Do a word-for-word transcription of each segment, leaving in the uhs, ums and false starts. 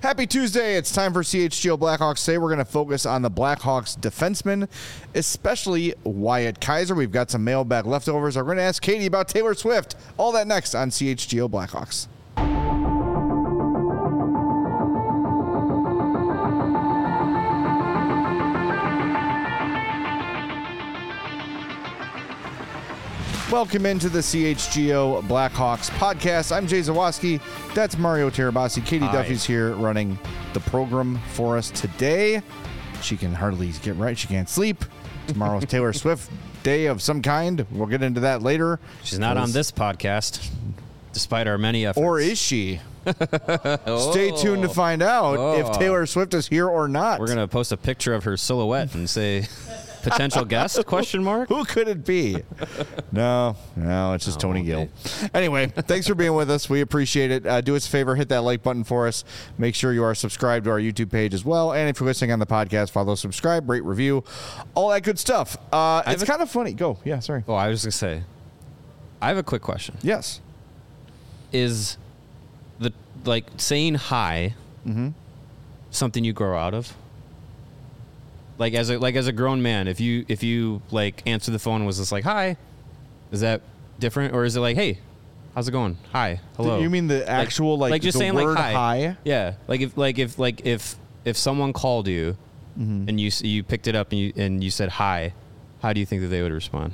Happy Tuesday. It's time for C H G O Blackhawks. Today we're going to focus on the Blackhawks defensemen, especially Wyatt Kaiser. We've got some mailbag leftovers. We're going to ask Katie about Taylor Swift. All that next on C H G O Blackhawks. Welcome into the C H G O Blackhawks podcast. I'm Jay Zawoski. That's Mario Terabasi. Katie Hi. Duffy's here running the program for us today. She can hardly get right. She can't sleep. Tomorrow's Taylor Swift day of some kind. We'll get into that later. She's not on this podcast, despite our many efforts. Or is she? Oh. Stay tuned to find out Oh. if Taylor Swift is here or not. We're going to post a picture of her silhouette and say, potential guest, question mark? Who could it be? No, no, it's just Oh, Tony okay. Gill. Anyway, thanks for being with us. We appreciate it. Uh, do us a favor, hit that like button for us. Make sure you are subscribed to our YouTube page as well. And if you're listening on the podcast, follow, subscribe, rate, review, all that good stuff. Uh, it's a- kind of funny. Go. Yeah, sorry. Oh, I was going to say, I have a quick question. Yes. Is the, like, saying hi Mm-hmm. something you grow out of? Like as a like as a grown man, if you if you like answer the phone and was just like hi, is that different, or is it like hey, how's it going? Hi, hello. You mean the actual, like, like just the saying word like hi? hi? Yeah, like if like if like if if someone called you Mm-hmm. and you s- you picked it up and you and you said hi, how do you think that they would respond?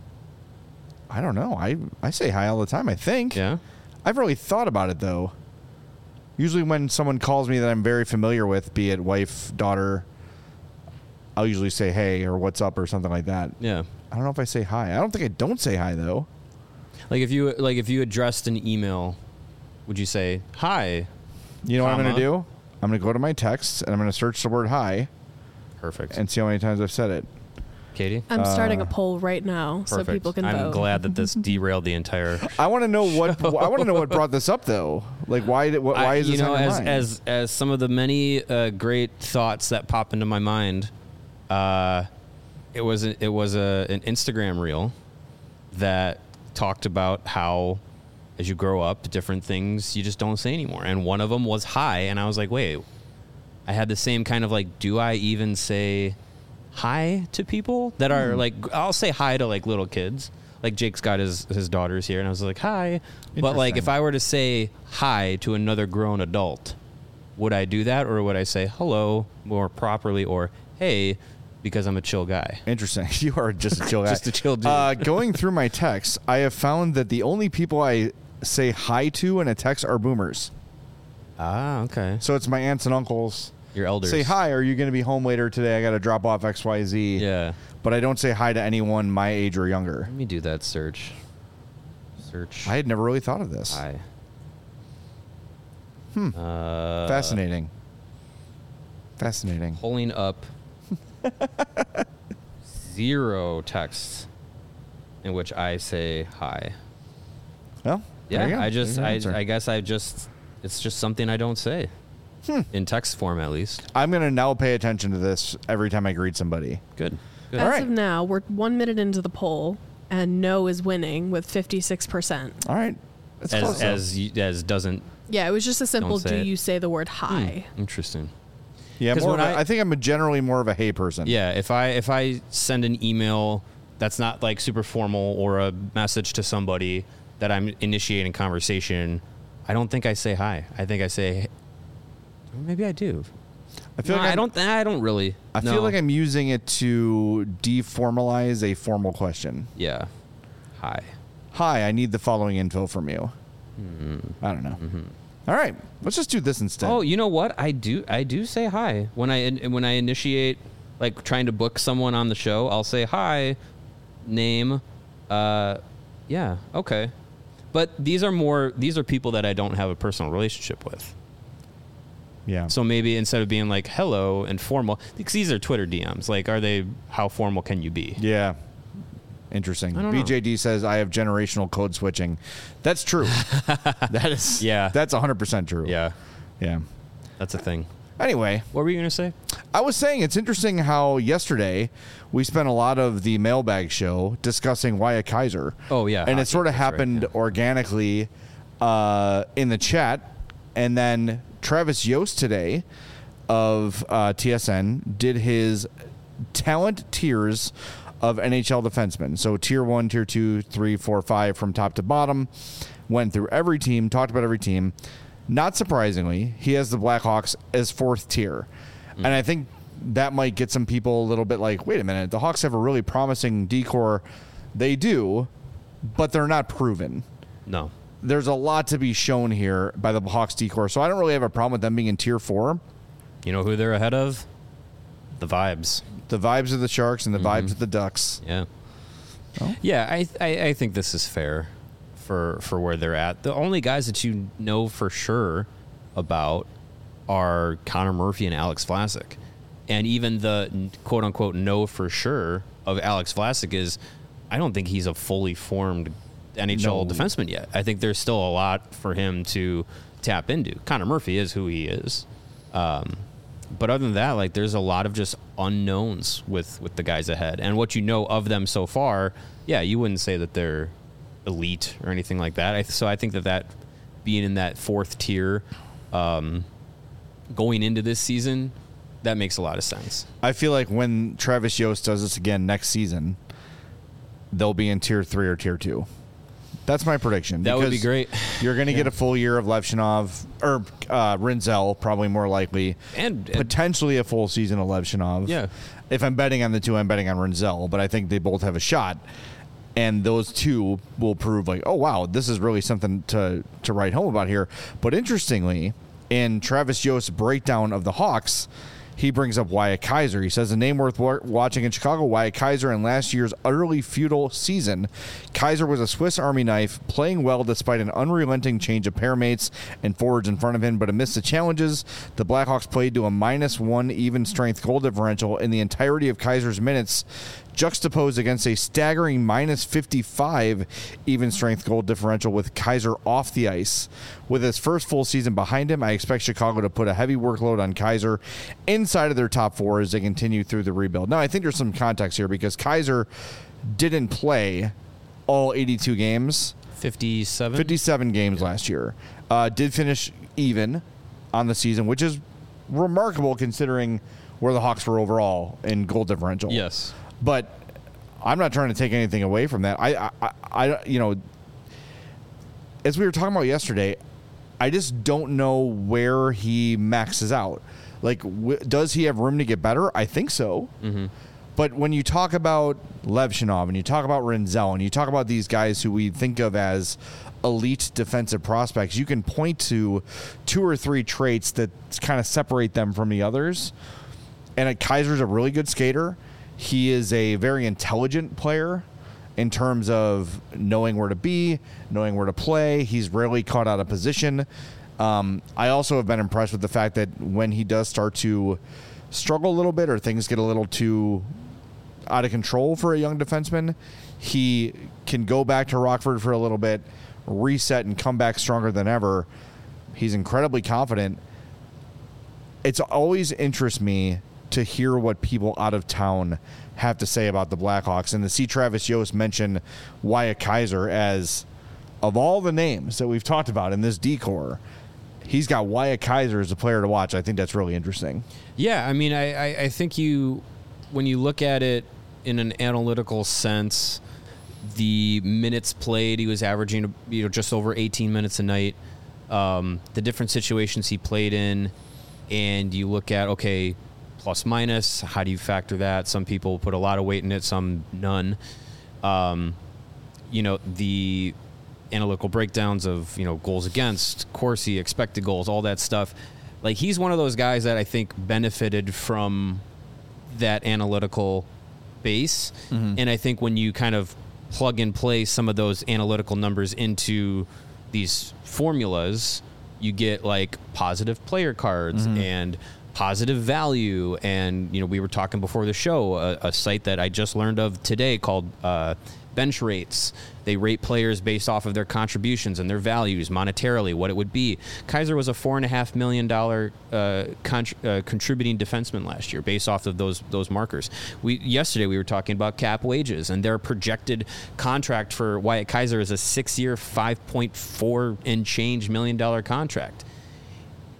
I don't know. I, I say hi all the time, I think. Yeah. I've really thought about it, though. Usually when someone calls me that I'm very familiar with, be it wife, daughter, I'll usually say hey or what's up or something like that. Yeah. I don't know if I say hi. I don't think I don't say hi, though. Like if you like if you addressed an email, would you say hi? You know what I'm Comma. going to do? I'm going to go to my texts and I'm going to search the word hi Perfect. and see how many times I've said it. Katie? I'm starting Uh, a poll right now so Perfect. people can I'm vote. glad that this derailed the entire. I want to know what I want to know what brought this up, though. Like, why did what, why I- is this you know on your as mind? as as some of the many uh, great thoughts that pop into my mind, uh, it was a, it was a an Instagram reel that talked about how as you grow up, different things you just don't say anymore, and one of them was hi, and I was like, wait, I had the same kind of like, do I even say hi to people that are like, I'll say hi to like little kids. Like Jake's got his, his daughters here and I was like, hi. But like, if Interesting. I were to say hi to another grown adult, would I do that? Or would I say hello more properly or hey, because I'm a chill guy? Interesting. You are just a chill guy. Just a chill dude. Uh, going through my texts, I have found that the only people I say hi to in a text are boomers. Ah, okay. So it's my aunts and uncles. Your elders. Say hi. Are you going to be home later today? I got to drop off X Y Z. Yeah. But I don't say hi to anyone my age or younger. Let me do that search. Search. I had never really thought of this. Hi. Hmm. Uh, Fascinating. Fascinating. Pulling up zero texts in which I say hi. Well, there you Yeah, go. I just, There's your I, answer. I guess I just, it's just something I don't say. Hmm. In text form, at least. I'm going to now pay attention to this every time I greet somebody. Good. Good. As All right. of now, we're one minute into the poll, and no is winning with fifty-six percent. All right. That's close, As though. as you- as doesn't. Yeah, it was just a simple, Don't say do it. you say the word hi? Hmm, interesting. yeah, 'cause more of when a- I- I think I'm a generally more of a hey person. Yeah, if I if I send an email that's not like super formal or a message to somebody that I'm initiating conversation, I don't think I say hi. I think I say, or maybe I do. I feel No, like I I'm- don't. I don't really. I no. feel like I'm using it to deformalize a formal question. Yeah. Hi. Hi, I need the following info from you. I don't know. All right, let's just do this instead. Oh, you know what? I do. I do say hi when I in, when I initiate, like trying to book someone on the show. I'll say hi, name, uh, yeah, okay. But these are more. These are people that I don't have a personal relationship with. yeah. So maybe instead of being like hello and formal, because these are Twitter D Ms. Like, are they? How formal can you be? Yeah. Interesting. I don't know. B J D says I have generational code switching. That's true. That is. Yeah. That's one hundred percent true. Yeah, Yeah. that's a thing. Anyway, What were you gonna say? I was saying it's interesting how yesterday we spent a lot of the mailbag show discussing Wyatt Kaiser. Oh, yeah, and it hockey, sort of that's right, happened yeah. organically uh, in the chat, and then Travis Yost today of uh, T S N did his talent tiers of N H L defensemen. So tier one, tier two, three, four, five from top to bottom. Went through every team, talked about every team. Not surprisingly, he has the Blackhawks as fourth tier. Mm. And I think that might get some people a little bit like, wait a minute, the Hawks have a really promising D-core. They do, but they're not proven. No. There's a lot to be shown here by the Hawks D-core, so I don't really have a problem with them being in tier four. You know who they're ahead of? The Vibes. The Vibes of the Sharks and the Mm-hmm. Vibes of the Ducks. Yeah. Oh. Yeah, I, I I think this is fair for for where they're at. The only guys that you know for sure about are Connor Murphy and Alex Vlasic. And even the quote-unquote know for sure of Alex Vlasic is I don't think he's a fully formed N H L No. defenseman yet. I think there's still a lot for him to tap into. Connor Murphy is who he is. Um, but other than that, like there's a lot of just unknowns with, with the guys ahead. And what you know of them so far, yeah, you wouldn't say that they're elite or anything like that. I, so I think that that being in that fourth tier um, going into this season, that makes a lot of sense. I feel like when Travis Yost does this again next season, they'll be in tier three or tier two. That's my prediction. That would be because great. You're going to Yeah. get a full year of Levshinov, or uh, Rinzel, probably more likely. And, and Potentially a full season of Levshinov. Yeah. If I'm betting on the two, I'm betting on Rinzel, but I think they both have a shot. And those two will prove like, oh, wow, this is really something to, to write home about here. But interestingly, in Travis Yost's breakdown of the Hawks, he brings up Wyatt Kaiser. He says, a name worth wa- watching in Chicago, Wyatt Kaiser in last year's utterly futile season. Kaiser was a Swiss Army knife, playing well despite an unrelenting change of pairmates and forwards in front of him. But amidst the challenges, the Blackhawks played to a minus one even strength goal differential in the entirety of Kaiser's minutes, juxtaposed against a staggering minus fifty-five even strength goal differential with Kaiser off the ice. With his first full season behind him, I expect Chicago to put a heavy workload on Kaiser inside of their top four as they continue through the rebuild. Now, I think there's some context here because Kaiser didn't play all eighty-two games. fifty-seven? fifty-seven games last year. Uh, did finish even on the season, which is remarkable considering where the Hawks were overall in goal differential. Yes. But I'm not trying to take anything away from that. I, I, I, you know, as we were talking about yesterday, I just don't know where he maxes out. Like, w- does he have room to get better? I think so. Mm-hmm. But when you talk about Levshinov and you talk about Rinzel and you talk about these guys who we think of as elite defensive prospects, you can point to two or three traits that kind of separate them from the others. And uh, Kaiser's a really good skater. He is a very intelligent player in terms of knowing where to be, knowing where to play. He's rarely caught out of position. Um, I also have been impressed with the fact that when he does start to struggle a little bit or things get a little too out of control for a young defenseman, he can go back to Rockford for a little bit, reset, and come back stronger than ever. He's incredibly confident. It's always interests me to hear what people out of town have to say about the Blackhawks, and to see Travis Yost mention Wyatt Kaiser as, of all the names that we've talked about in this D-core, he's got Wyatt Kaiser as a player to watch. I think that's really interesting. Yeah, I mean, I, I, I think you, when you look at it in an analytical sense, the minutes played, he was averaging you know just over eighteen minutes a night. Um, the different situations he played in, and you look at, okay, plus minus, how do you factor that? Some people put a lot of weight in it, some none. Um, you know, the analytical breakdowns of, you know, goals against, Corsi, expected goals, all that stuff. Like, he's one of those guys that I think benefited from that analytical base. Mm-hmm. And I think when you kind of plug and play some of those analytical numbers into these formulas, you get like positive player cards mm-hmm. and positive value. And, you know, we were talking before the show, a, a site that I just learned of today called uh, Bench Rates. They rate players based off of their contributions and their values monetarily, what it would be. Kaiser was a four and a half million dollar uh, con- uh, contributing defenseman last year, based off of those those markers. We yesterday we were talking about cap wages, and their projected contract for Wyatt Kaiser is a six-year, five point four and change million dollar contract.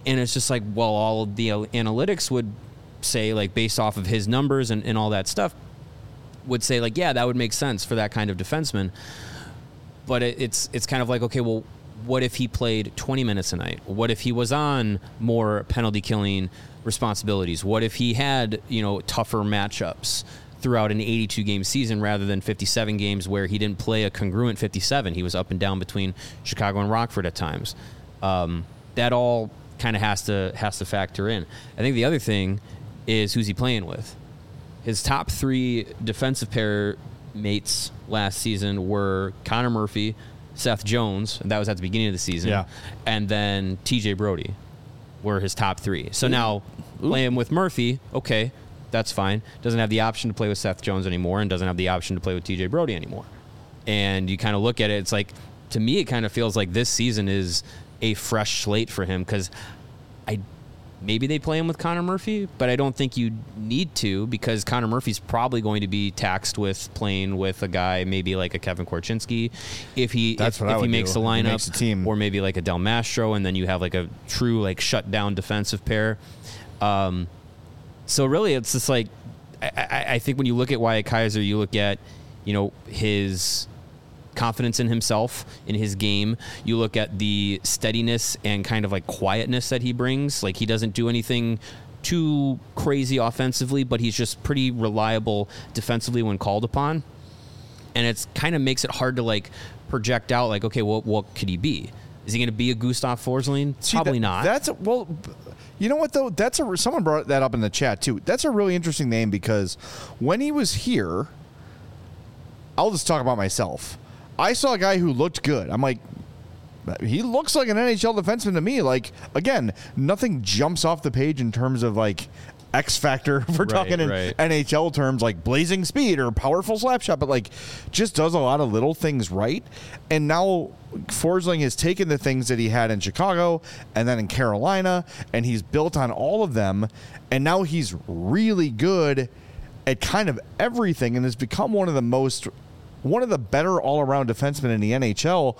And it's just like, well, all of the analytics would say, like, based off of his numbers and, and all that stuff, would say, like, yeah, that would make sense for that kind of defenseman. But it, it's it's kind of like, okay, well, what if he played twenty minutes a night? What if he was on more penalty killing responsibilities? What if he had, you know, tougher matchups throughout an eighty-two game season rather than fifty-seven games where he didn't play a congruent fifty-seven? He was up and down between Chicago and Rockford at times. Um, that all kind of has to has to factor in. I think the other thing is, who's he playing with? His top three defensive pair mates last season were Connor Murphy, Seth Jones, and that was at the beginning of the season, yeah. and then T J Brody were his top three. So Ooh. now Ooh. playing with Murphy, okay, that's fine. Doesn't have the option to play with Seth Jones anymore, and doesn't have the option to play with T J Brody anymore. And you kind of look at it, it's like, to me, it kind of feels like this season is a fresh slate for him, because I maybe they play him with Connor Murphy, but I don't think you need to, because Connor Murphy's probably going to be taxed with playing with a guy maybe like a Kevin Korchinski if he That's if, what if I he would makes do. the lineup, makes the team. Or maybe like a Del Mastro, and then you have like a true like shut down defensive pair. Um, so really, it's just like I, I, I think when you look at Wyatt Kaiser, you look at, you know, his confidence in himself, in his game. You look at the steadiness and kind of like quietness that he brings. Like, he doesn't do anything too crazy offensively, but he's just pretty reliable defensively when called upon. And it's kind of makes it hard to like project out like, okay, well, what could he be? Is he going to be a Gustav Forsling? See, Probably that, not. That's a, well, you know what though? That's a someone brought that up in the chat too. That's a really interesting name, because when he was here, I'll just talk about myself. I saw a guy who looked good. I'm like, he looks like an N H L defenseman to me. Like, again, nothing jumps off the page in terms of like X factor. If we're Right, talking in right. N H L terms, like blazing speed or powerful slap shot, but like just does a lot of little things right. And now Forsling has taken the things that he had in Chicago and then in Carolina, and he's built on all of them. And now he's really good at kind of everything, and has become one of the most one of the better all-around defensemen in the N H L.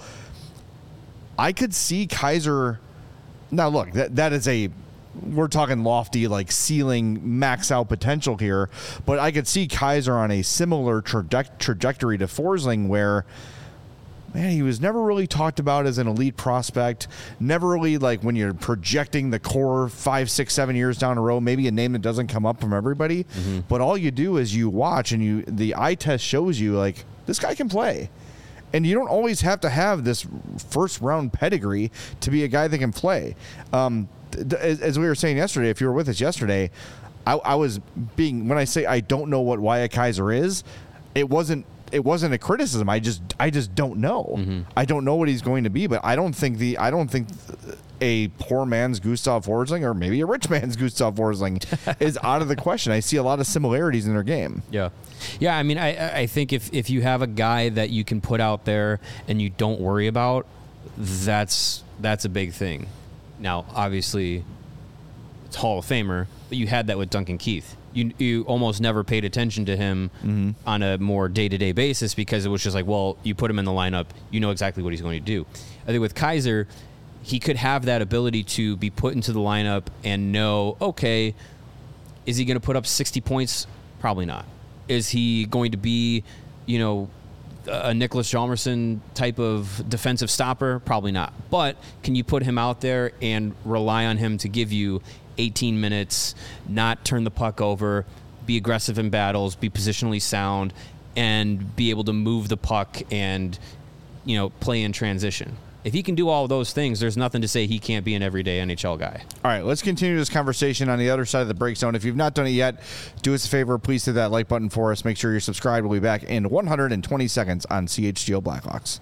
I could see Kaiser. Now, look, that that is a, we're talking lofty, like ceiling, max out potential here, but I could see Kaiser on a similar traje- trajectory to Forsling, where, man, he was never really talked about as an elite prospect. Never really, like, when you're projecting the core five, six, seven years down the road, maybe a name that doesn't come up from everybody. Mm-hmm. But all you do is you watch, and you the eye test shows you, like, this guy can play. And you don't always have to have this first round pedigree to be a guy that can play. Um, th- as, as we were saying yesterday, if you were with us yesterday, I, I was being, when I say I don't know what Wyatt Kaiser is, it wasn't it wasn't a criticism. I just I just don't know. Mm-hmm. I don't know what he's going to be, but I don't think the I don't think a poor man's Gustav Forsling, or maybe a rich man's Gustav Forsling, is out of the question. I see a lot of similarities in their game. Yeah. Yeah, I mean, I I think if, if you have a guy that you can put out there and you don't worry about, that's that's a big thing. Now, obviously, it's Hall of Famer, but you had that with Duncan Keith. You you almost never paid attention to him mm-hmm. on a more day-to-day basis, because it was just like, well, you put him in the lineup, you know exactly what he's going to do. I think with Kaiser, he could have that ability to be put into the lineup and know, okay, is he going to put up sixty points? Probably not. Is he going to be, you know, a Nicholas Hjalmarsson type of defensive stopper? Probably not. But can you put him out there and rely on him to give you eighteen minutes, not turn the puck over, be aggressive in battles, be positionally sound, and be able to move the puck and, you know, play in transition? If he can do all of those things, there's nothing to say he can't be an everyday N H L guy. All right, let's continue this conversation on the other side of the break zone. If you've not done it yet, do us a favor. Please hit that like button for us. Make sure you're subscribed. We'll be back in one hundred twenty seconds on C H G O Blackhawks.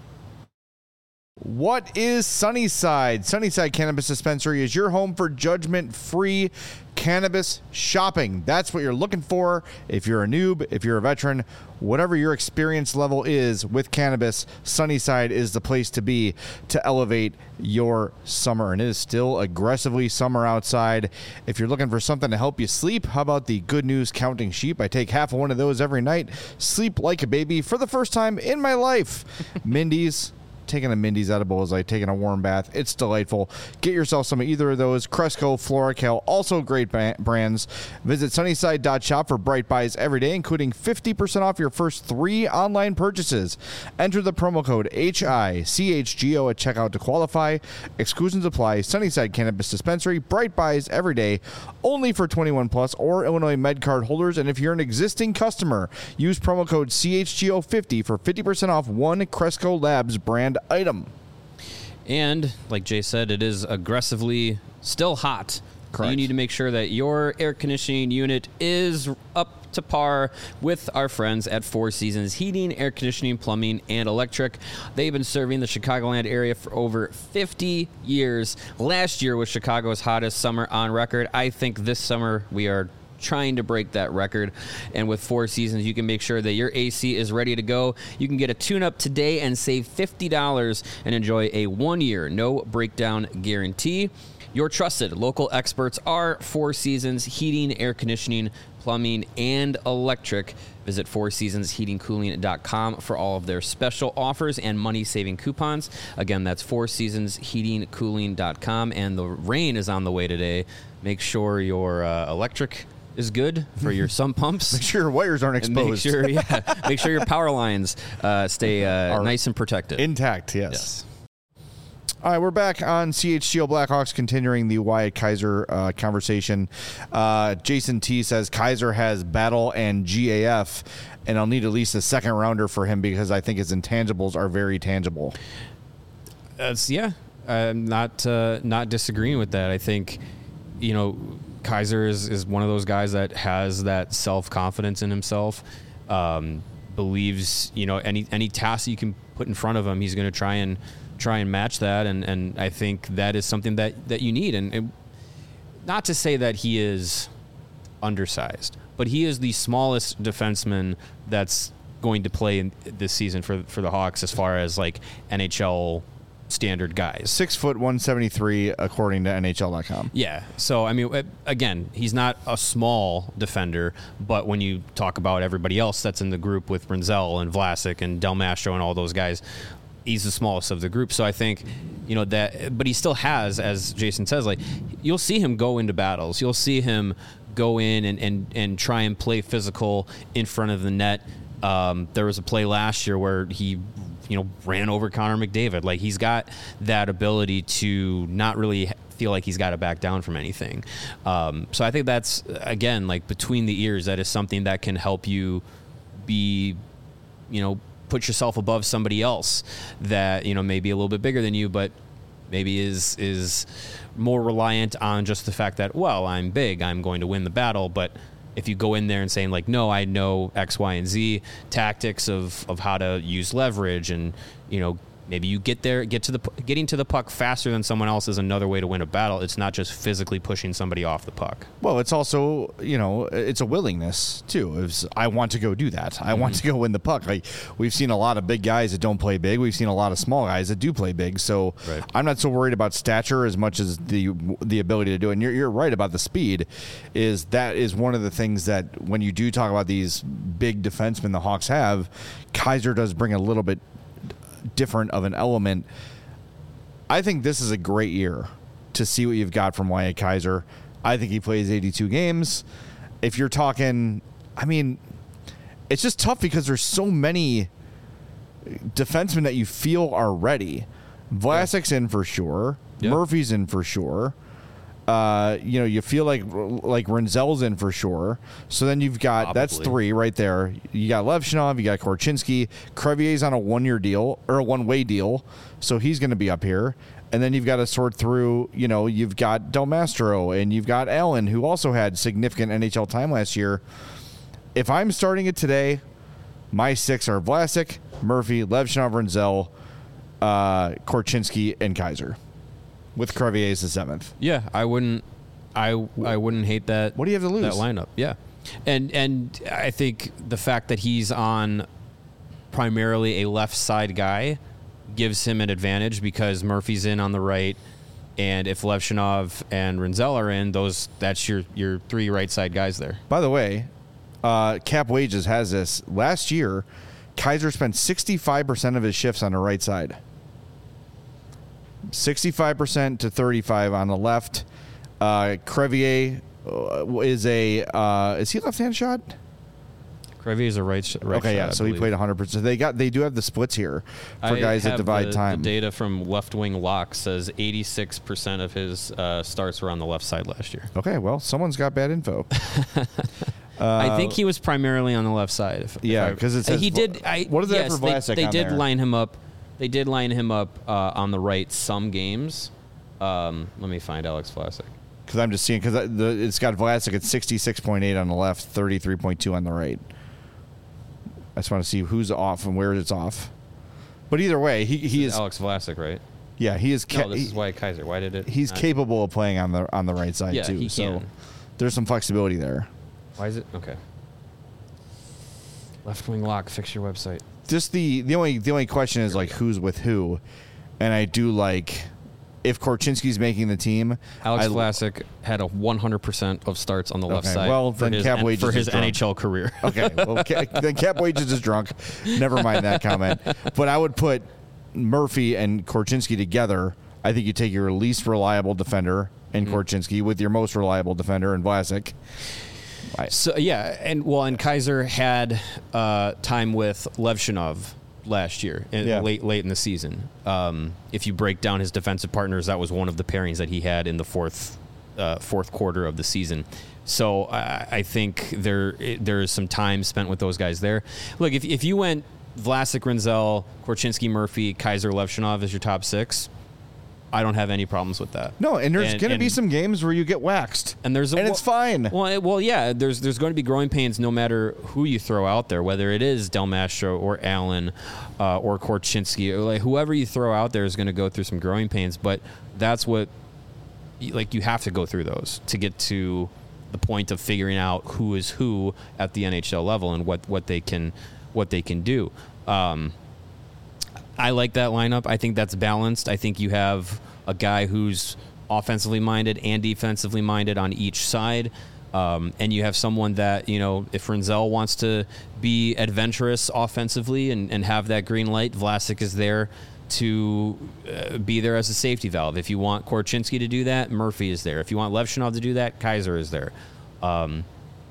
What is Sunnyside? Sunnyside Cannabis Dispensary is your home for judgment-free cannabis shopping. That's what you're looking for. If you're a noob, if you're a veteran, whatever your experience level is with cannabis, Sunnyside is the place to be to elevate your summer. And it is still aggressively summer outside. If you're looking for something to help you sleep, how about the Good News Counting Sheep? I take half of one of those every night. Sleep like a baby for the first time in my life. Mindy's taking a Mindy's edible is like taking a warm bath. It's delightful. Get yourself some of either of those. Cresco, FloraCal, also great ba- brands. Visit sunnyside dot shop for Bright Buys every day, including fifty percent off your first three online purchases. Enter the promo code H I C H G O at checkout to qualify. Exclusions apply. Sunnyside Cannabis Dispensary. Bright Buys every day, only for twenty-one plus or Illinois MedCard holders. And if you're an existing customer, use promo code C H G O fifty for fifty percent off one Cresco Labs brand item. And like Jay said, it is aggressively still hot. Correct. You need to make sure that your air conditioning unit is up to par with our friends at Four Seasons Heating, Air Conditioning, Plumbing, and Electric. They've been serving the Chicagoland area for over fifty years. Last year was Chicago's hottest summer on record. I think this summer we are trying to break that record. And with Four Seasons, you can make sure that your A C is ready to go. You can get a tune-up today and save fifty dollars and enjoy a one-year no-breakdown guarantee. Your trusted local experts are Four Seasons Heating, Air Conditioning, Plumbing, and Electric. Visit four seasons heating cooling dot com for all of their special offers and money-saving coupons. Again, that's four seasons heating cooling dot com. And the rain is on the way today. Make sure your uh, electric is good for your sump pumps. Make sure your wires aren't And make exposed. sure, yeah, make sure your power lines uh, stay uh, Are nice and protected. Intact, yes. Yes. All right, we're back on C H G O Blackhawks, continuing the Wyatt Kaiser uh, conversation. Uh, Jason T says Kaiser has battle and G A F, and I'll need at least a second rounder for him because I think his intangibles are very tangible. That's yeah. I'm not uh, not disagreeing with that. I think, you know, Kaiser is, is one of those guys that has that self confidence in himself. Um, believes, you know, any any task you can put in front of him, he's going to try and try and match that. And, and I think that is something that, that you need. And it, not to say that he is undersized, but he is the smallest defenseman that's going to play in this season for for the Hawks as far as like N H L standard guys. Six foot one seventy three, according to N H L dot com. Yeah. So I mean, again, he's not a small defender, but when you talk about everybody else that's in the group with Renzel and Vlasic and Del Mastro and all those guys, he's the smallest of the group. So I think, you know, that, but he still has, as Jason says, like, you'll see him go into battles. You'll see him go in and, and, and try and play physical in front of the net. Um, there was a play last year where he, you know, ran over Connor McDavid. Like, he's got that ability to not really feel like he's got to back down from anything. Um, so I think that's, again, like, between the ears, that is something that can help you be, you know, put yourself above somebody else that, you know, maybe a little bit bigger than you, but maybe is is more reliant on just the fact that, well, I'm big, I'm going to win the battle. But if you go in there and saying, like, no, I know X, Y, and Z tactics of, of how to use leverage, and, you know, maybe you get there, get to the getting to the puck faster than someone else is another way to win a battle. It's not just physically pushing somebody off the puck. Well, it's also, you know, it's a willingness too. It's, I want to go do that. I mm-hmm. want to go win the puck. Like, we've seen a lot of big guys that don't play big. We've seen a lot of small guys that do play big. So right. I'm not so worried about stature as much as the the ability to do it. And you're, you're right about the speed. Is that is one of the things that when you do talk about these big defensemen the Hawks have, Kaiser does bring a little bit different of an element. I think this is a great year to see what you've got from Wyatt Kaiser. I think he plays eighty-two games. If you're talking, I mean, it's just tough because there's so many defensemen that you feel are ready. Vlasic's in for sure. Yeah. Murphy's in for sure. Uh, you know, you feel like like Renzel's in for sure. So then you've got Probably. that's three right there. You got Levshinov, you got Korchinski. Crevier's on a one-year deal or a one-way deal, so he's going to be up here. And then you've got to sort through. You know, you've got Del Mastro and you've got Allen, who also had significant N H L time last year. If I'm starting it today, my six are Vlasic, Murphy, Levshinov, Renzel, uh, Korchinski, and Kaiser. With Crevier as the seventh. Yeah, I wouldn't. I I wouldn't hate that. What do you have to lose? That lineup, yeah, and and I think the fact that he's on primarily a left side guy gives him an advantage because Murphy's in on the right, and if Levshinov and Renzel are in, those that's your your three right side guys there. By the way, uh, Cap Wages has this. Last year, Kaiser spent sixty-five percent of his shifts on the right side. sixty-five percent to thirty-five on the left. Uh, Crevier uh, is a uh, is he left-hand shot? Crevier is a right, sh- right okay, shot, yeah. I So he believe. played one hundred percent. They got they do have the splits here for I guys that have divide the, time. The data from Left Wing Lock says eighty-six percent of his uh, starts were on the left side last year. Okay, well, someone's got bad info. I think he was primarily on the left side. If, if Yeah, I- 'cause it says he Vla- did. I, what is that yes, for Vlasic They, they on did there? line him up. They did line him up uh, on the right some games. Um, let me find Alex Vlasic. Because I'm just seeing because it's got Vlasic at sixty-six point eight on the left, thirty-three point two on the right. I just want to see who's off and where it's off. But either way, he he This is Alex Vlasic, right? yeah he is ca- No, this he- is Wyatt Kaiser. Why did it? he's not- capable of playing on the on the right side Yeah, too. he so can. there's some flexibility there. Why is it okay? Left Wing Lock. Fix your website. Just the the only the only question is like who's with who, and I do like if Korchinski's making the team. Alex I, Vlasic had a one hundred percent of starts on the left Okay, side well, for then his, Cap N- Wages for is his drunk. N H L career. Okay, well, Ca- then Cap Wages is drunk. Never mind that comment. But I would put Murphy and Korchinski together. I think you take your least reliable defender in Mm-hmm. Korchinski with your most reliable defender in Vlasic. So yeah, and well, and Kaiser had uh, time with Levshinov last year, in, Yeah. late late in the season. Um, if you break down his defensive partners, that was one of the pairings that he had in the fourth uh, fourth quarter of the season. So I, I think there there is some time spent with those guys there. Look, if if you went Vlasic, Rinzel, Korchinski, Murphy, Kaiser, Levshinov as your top six, I don't have any problems with that. No, and there's And- going to be and- some games where you get waxed, and there's a, and it's fine. Well, it- well, yeah. There's there's going to be growing pains no matter who you throw out there, whether it is Del Mastro or Allen uh, or Korchinski, or like whoever you throw out there is going to go through some growing pains. But that's what, like, you have to go through those to get to the point of figuring out who is who at the N H L level and what, what they can what they can do. Um, I like that lineup. I think that's balanced. I think you have a guy who's offensively minded and defensively minded on each side. Um, and you have someone that, you know, if Rinzel wants to be adventurous offensively and, and have that green light, Vlasic is there to uh, be there as a safety valve. If you want Korchinski to do that, Murphy is there. If you want Levshinov to do that, Kaiser is there. Um,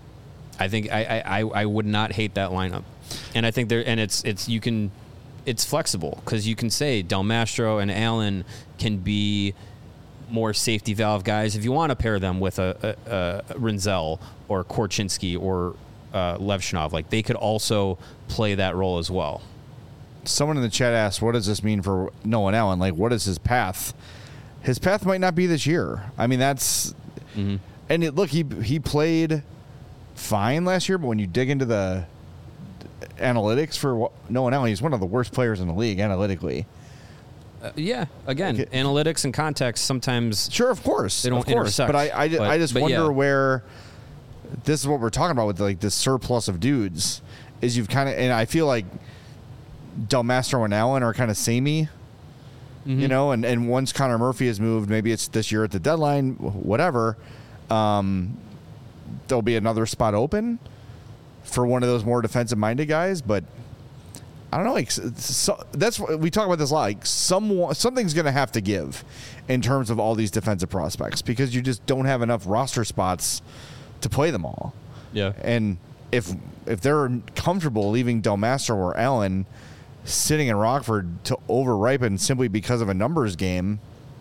I think I, I, I would not hate that lineup. And I think there, and it's, it's, you can, it's flexible because you can say Del Mastro and Allen can be more safety valve guys if you want to pair them with a, a, a Rinzel or Korchinski or uh, Levshinov. Like they could also play that role as well. Someone in the chat asked, "What does this mean for Nolan Allen? Like, what is his path? His path might not be this year. I mean, that's Mm-hmm. and it, look, he he played fine last year, but when you dig into the analytics for Nolan Allen, he's one of the worst players in the league analytically. Uh, yeah, again, Okay. analytics and context sometimes. Sure, of course, They don't of course. intersect, But I, I, but- I just but wonder yeah. where this is what we're talking about with like this surplus of dudes. Is you've kind of, and I feel like Del Mastro and Allen are kind of samey, Mm-hmm. you know. And, and once Connor Murphy has moved, maybe it's this year at the deadline, whatever. Um, there'll be another spot open for one of those more defensive-minded guys, but. I don't know. Like, so, that's what we talk about this a lot. Like, some something's going to have to give in terms of all these defensive prospects because you just don't have enough roster spots to play them all. Yeah. And if if they're comfortable leaving Del Mastro or Allen sitting in Rockford to overripen simply because of a numbers game,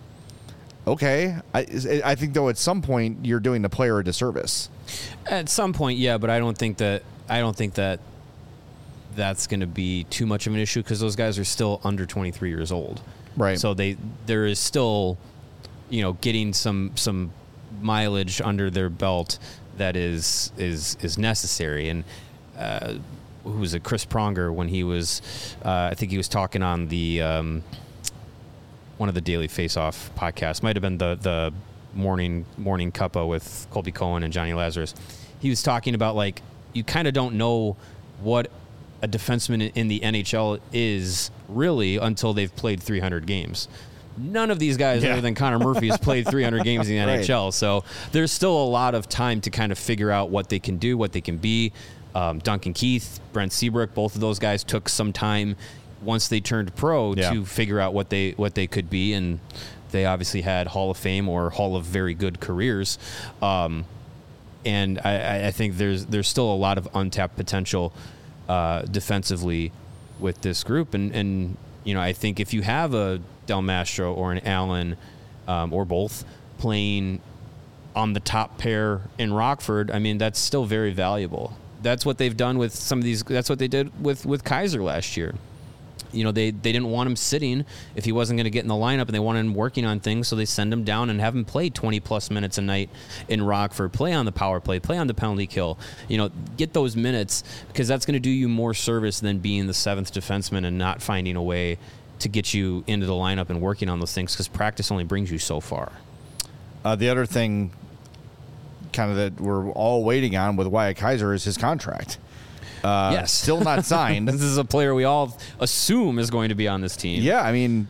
okay. I I think though at some point you're doing the player a disservice. At some point, yeah, but I don't think that I don't think that that's going to be too much of an issue because those guys are still under twenty-three years old. Right. So they there is still, you know, getting some some mileage under their belt that is is is necessary. And uh, who was it? Chris Pronger when he was, uh, I think he was talking on the um, one of the Daily Face-Off podcasts. Might have been the the morning morning cuppa with Colby Cohen and Johnny Lazarus. He was talking about like you kind of don't know what a defenseman in the N H L is really until they've played three hundred games. None of these guys Yeah. other than Connor Murphy has played three hundred games in the Right. N H L. So there's still a lot of time to kind of figure out what they can do, what they can be. Um, Duncan Keith, Brent Seabrook, both of those guys took some time once they turned pro Yeah. to figure out what they what they could be, and they obviously had Hall of Fame or Hall of very good careers. Um, and I, I think there's there's still a lot of untapped potential uh, defensively with this group, and and you know I think if you have a Del Mastro or an Allen um, or both playing on the top pair in Rockford, I mean that's still very valuable. That's what they've done with some of these. That's what they did with with Kaiser last year. You know, they, they didn't want him sitting if he wasn't going to get in the lineup, and they wanted him working on things, so they send him down and have him play twenty-plus minutes a night in Rockford, play on the power play, play on the penalty kill, you know, get those minutes, because that's going to do you more service than being the seventh defenseman and not finding a way to get you into the lineup and working on those things, because practice only brings you so far. Uh, the other thing kind of that we're all waiting on with Wyatt Kaiser is his contract. Uh, Yes. Still not signed. This is a player we all assume is going to be on this team. Yeah, I mean,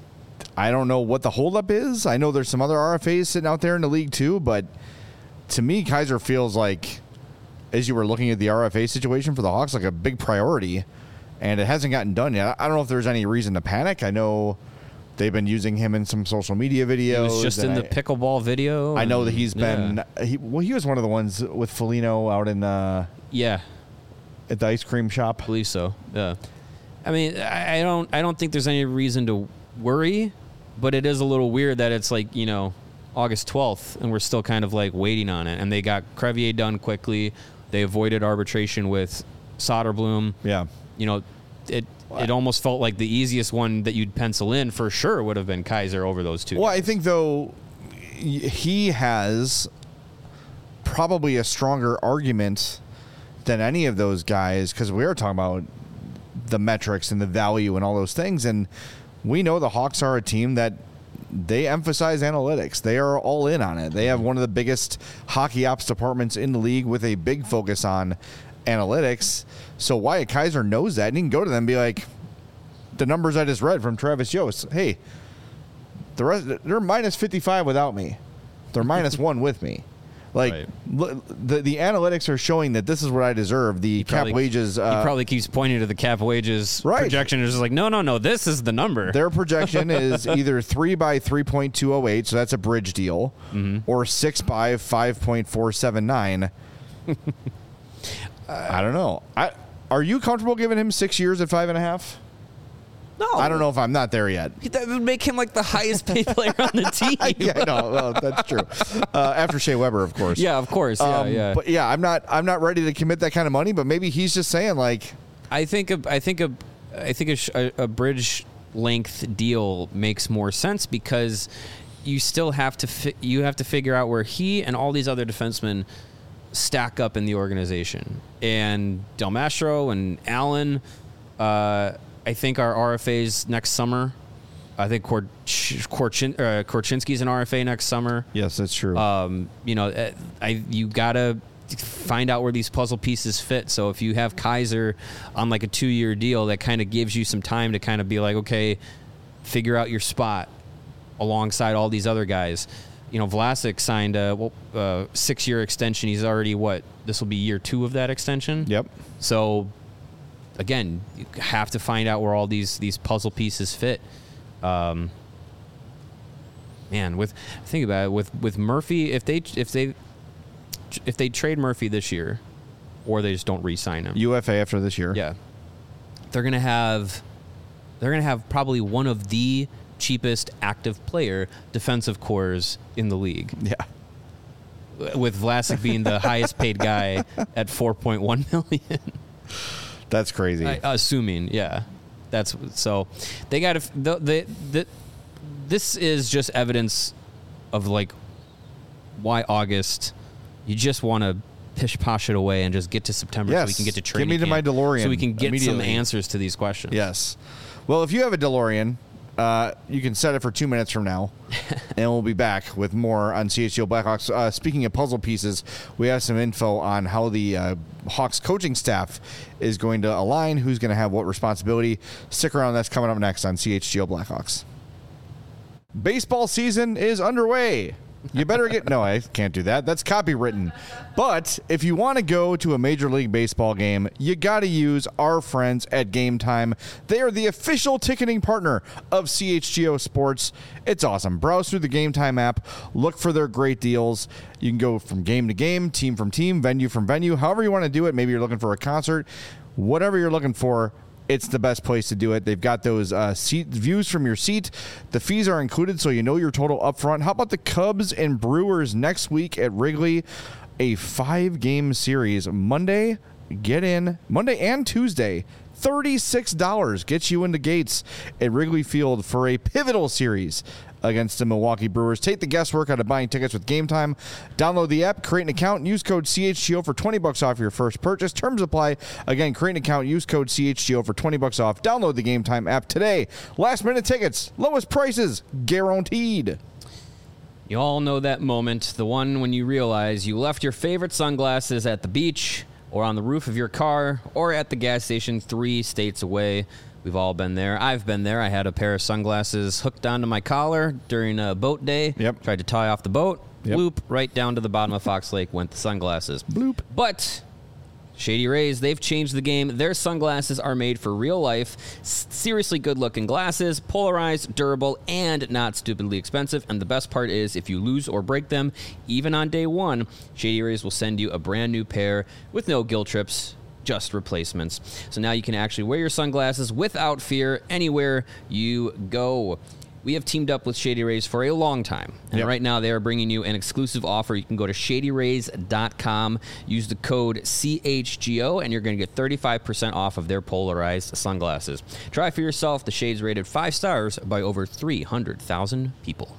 I don't know what the holdup is. I know there's some other R F As sitting out there in the league too, but to me, Kaiser feels like, as you were looking at the R F A situation for the Hawks, like a big priority, and it hasn't gotten done yet. I don't know if there's any reason to panic. I know they've been using him in some social media videos. He was just in and the I, pickleball video. I know that and- he's been, yeah. he, well, he was one of the ones with Foligno out in uh, yeah. at the ice cream shop. I believe so. Yeah. I mean, I I don't I don't think there's any reason to worry, but it is a little weird that it's like, you know, August twelfth and we're still kind of like waiting on it. And they got Crevier done quickly. They avoided arbitration with Soderblom. Yeah. You know, it it almost felt like the easiest one that you'd pencil in for sure would have been Kaiser over those two. Well, I think, though, y- he has probably a stronger argument than any of those guys, because we are talking about the metrics and the value and all those things. And we know the Hawks are a team that they emphasize analytics. They are all in on it. They have one of the biggest hockey ops departments in the league with a big focus on analytics. So Wyatt Kaiser knows that, and he can go to them and be like, the numbers I just read from Travis Yost, hey, the rest, they're minus fifty-five without me. They're minus one with me. Like, Right. l- the the analytics are showing that this is what I deserve. The cap Probably- wages. Uh, he probably keeps pointing to the cap wages Right. projection. It's just like, no, no, no, this is the number. Their projection is either three by three point two oh eight, so that's a bridge deal, Mm-hmm. or six by five point four seven nine. I don't know. I are you comfortable giving him six years at five and a half? No, I don't know if I'm not there yet. That would make him like the highest paid player on the team. Yeah, no, well, that's true. Uh, after Shea Weber, of course. Yeah, of course. Yeah, Um, yeah. But yeah, I'm not. I'm not ready to commit that kind of money. But maybe he's just saying like, I think a, I think a, I think a, sh- a, a bridge length deal makes more sense, because you still have to fi- you have to figure out where he and all these other defensemen stack up in the organization. And Del Mastro and Allen, uh, I think are R F As next summer. I think Korch- Korchin- uh, Korchinski's an R F A next summer. yes, that's true. Um, you know, uh, I you gotta find out where these puzzle pieces fit. So if you have Kaiser on like a two-year deal, that kind of gives you some time to kind of be like, okay, figure out your spot alongside all these other guys. You know, Vlasic signed a well, uh, six-year extension. He's already what? This will be year two of that extension. Yep. So again, you have to find out where all these these puzzle pieces fit. Um, man, with think about it, with with Murphy, if they if they if they trade Murphy this year, or they just don't re-sign him, U F A after this year. yeah, they're gonna have they're gonna have probably one of the cheapest active player defensive cores in the league, Yeah. with Vlasic being the highest paid guy at four point one million. That's crazy. I, assuming, yeah, that's so they got to. The, the, the, this is just evidence of like why August. You just want to pish posh it away and just get to September so we Yes. can get to Give training me to my camp, DeLorean so we can get some immediately. answers to these questions. Yes. Well, if you have a DeLorean, uh, you can set it for two minutes from now, and we'll be back with more on C H G O Blackhawks. Uh, speaking of puzzle pieces, we have some info on how the uh, Hawks coaching staff is going to align, who's going to have what responsibility. Stick around. That's coming up next on C H G O Blackhawks. Baseball season is underway. You better get... No, I can't do that. That's copywritten. But if you want to go to a Major League Baseball game, you got to use our friends at Game Time. They are the official ticketing partner of C H G O Sports. It's awesome. Browse through the Game Time app. Look for their great deals. You can go from game to game, team from team, venue from venue, however you want to do it. Maybe you're looking for a concert. Whatever you're looking for, it's the best place to do it. They've got those uh, seat views from your seat. The fees are included, so you know your total up front. How about the Cubs and Brewers next week at Wrigley? A five-game series. Monday, get in. Monday and Tuesday. thirty-six dollars gets you into gates at Wrigley Field for a pivotal series against the Milwaukee Brewers. Take the guesswork out of buying tickets with Game Time. Download the app, create an account, and use code C H G O for twenty bucks off your first purchase. Terms apply. Again, create an account, use code C H G O for twenty bucks off. Download the Game Time app today. Last minute tickets, lowest prices guaranteed. You all know that moment, the one when you realize you left your favorite sunglasses at the beach or on the roof of your car or at the gas station three states away. We've all been there. I've been there. I had a pair of sunglasses hooked onto my collar during a boat day. Yep. Tried to tie off the boat. Yep. Bloop, right down to the bottom of Fox Lake went the sunglasses. Bloop. But Shady Rays, they've changed the game. Their sunglasses are made for real life. S- seriously good-looking glasses, polarized, durable, and not stupidly expensive. And the best part is, if you lose or break them, even on day one, Shady Rays will send you a brand new pair with no guilt trips, just replacements. So now you can actually wear your sunglasses without fear anywhere you go. We have teamed up with Shady Rays for a long time. And Yep. right now they are bringing you an exclusive offer. You can go to shady rays dot com, use the code C H G O, and you're going to get thirty-five percent off of their polarized sunglasses. Try for yourself. The shades rated five stars by over three hundred thousand people.